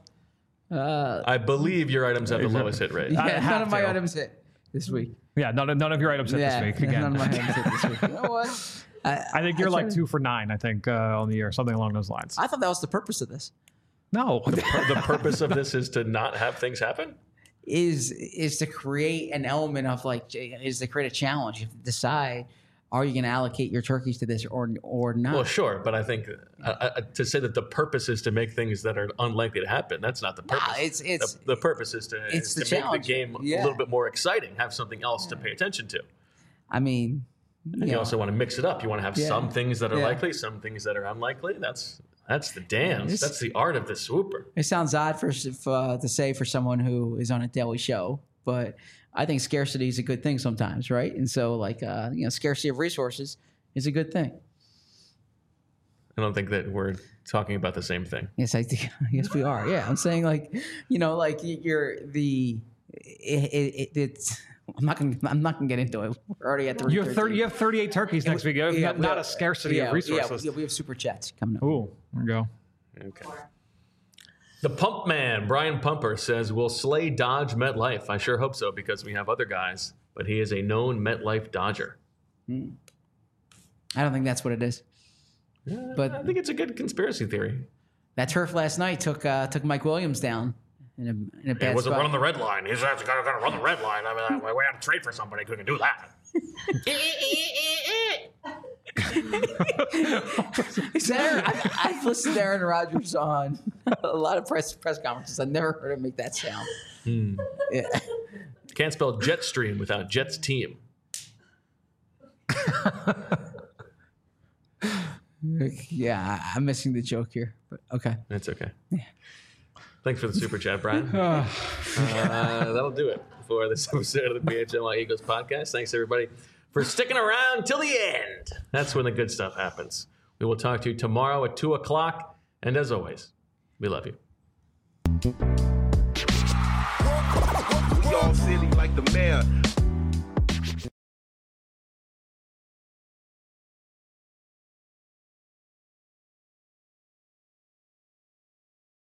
uh, I believe your items have the lowest hit rate. yeah, I none have of my to. items hit this week. Yeah, none of, none of your items hit yeah, this week again. none of my items hit this week. You know what? I, I think you're I like tried- two for nine, I think, uh, on the year, something along those lines. I thought that was the purpose of this. No. The purpose of this is to not have things happen? Is is to create an element of like is to create a challenge. You have to decide, are you going to allocate your turkeys to this or or not? Well, sure, but I think uh, uh, to say that the purpose is to make things that are unlikely to happen, that's not the purpose. Nah, it's- it's- the, the purpose is to, it's is the to make challenge. the game Yeah. a little bit more exciting, have something else to pay attention to. I mean, And you know, also want to mix it up. You want to have Yeah. some things that are Yeah. likely, some things that are unlikely. That's that's the dance. It's- That's the art of the swooper. it sounds odd for if, uh, to say for someone who is on a daily show, but I think scarcity is a good thing sometimes, right? And so, like, uh, you know, scarcity of resources is a good thing. I don't think that we're talking about the same thing. Yes, I think. Yes, we are. Yeah, I'm saying like, you know, like you're the. It, it, it, it's. I'm not gonna. I'm not gonna get into it. We're already at the. You have thirty. You have thirty-eight turkeys next week. You have not, not a scarcity yeah, of resources. Yeah, we have super chats coming up. Ooh, there we go. Okay. The Pump Man, Brian Pumper, says, will Slay dodge MetLife? I sure hope so, because we have other guys, but he is a known MetLife dodger. I don't think that's what it is. I But think it's a good conspiracy theory. that turf last night took uh, took Mike Williams down in a in a bad He wasn't spot. running the red line. He's actually going to run the red line. I mean, we had to trade for somebody who can do that. Is Aaron, I, I've listened to Aaron Rodgers on a lot of press press conferences. I've never heard him make that sound. Yeah. Can't spell Jetstream without Jets team. Yeah, I- I'm missing the joke here, but okay. That's okay. Thanks for the super chat, Brian. uh, that'll do it for this episode of the P H L Y Eagles podcast. Thanks, everybody, for sticking around till the end. That's when the good stuff happens. We will talk to you tomorrow at two o'clock. And as always, we love you. We all silly like the mayor.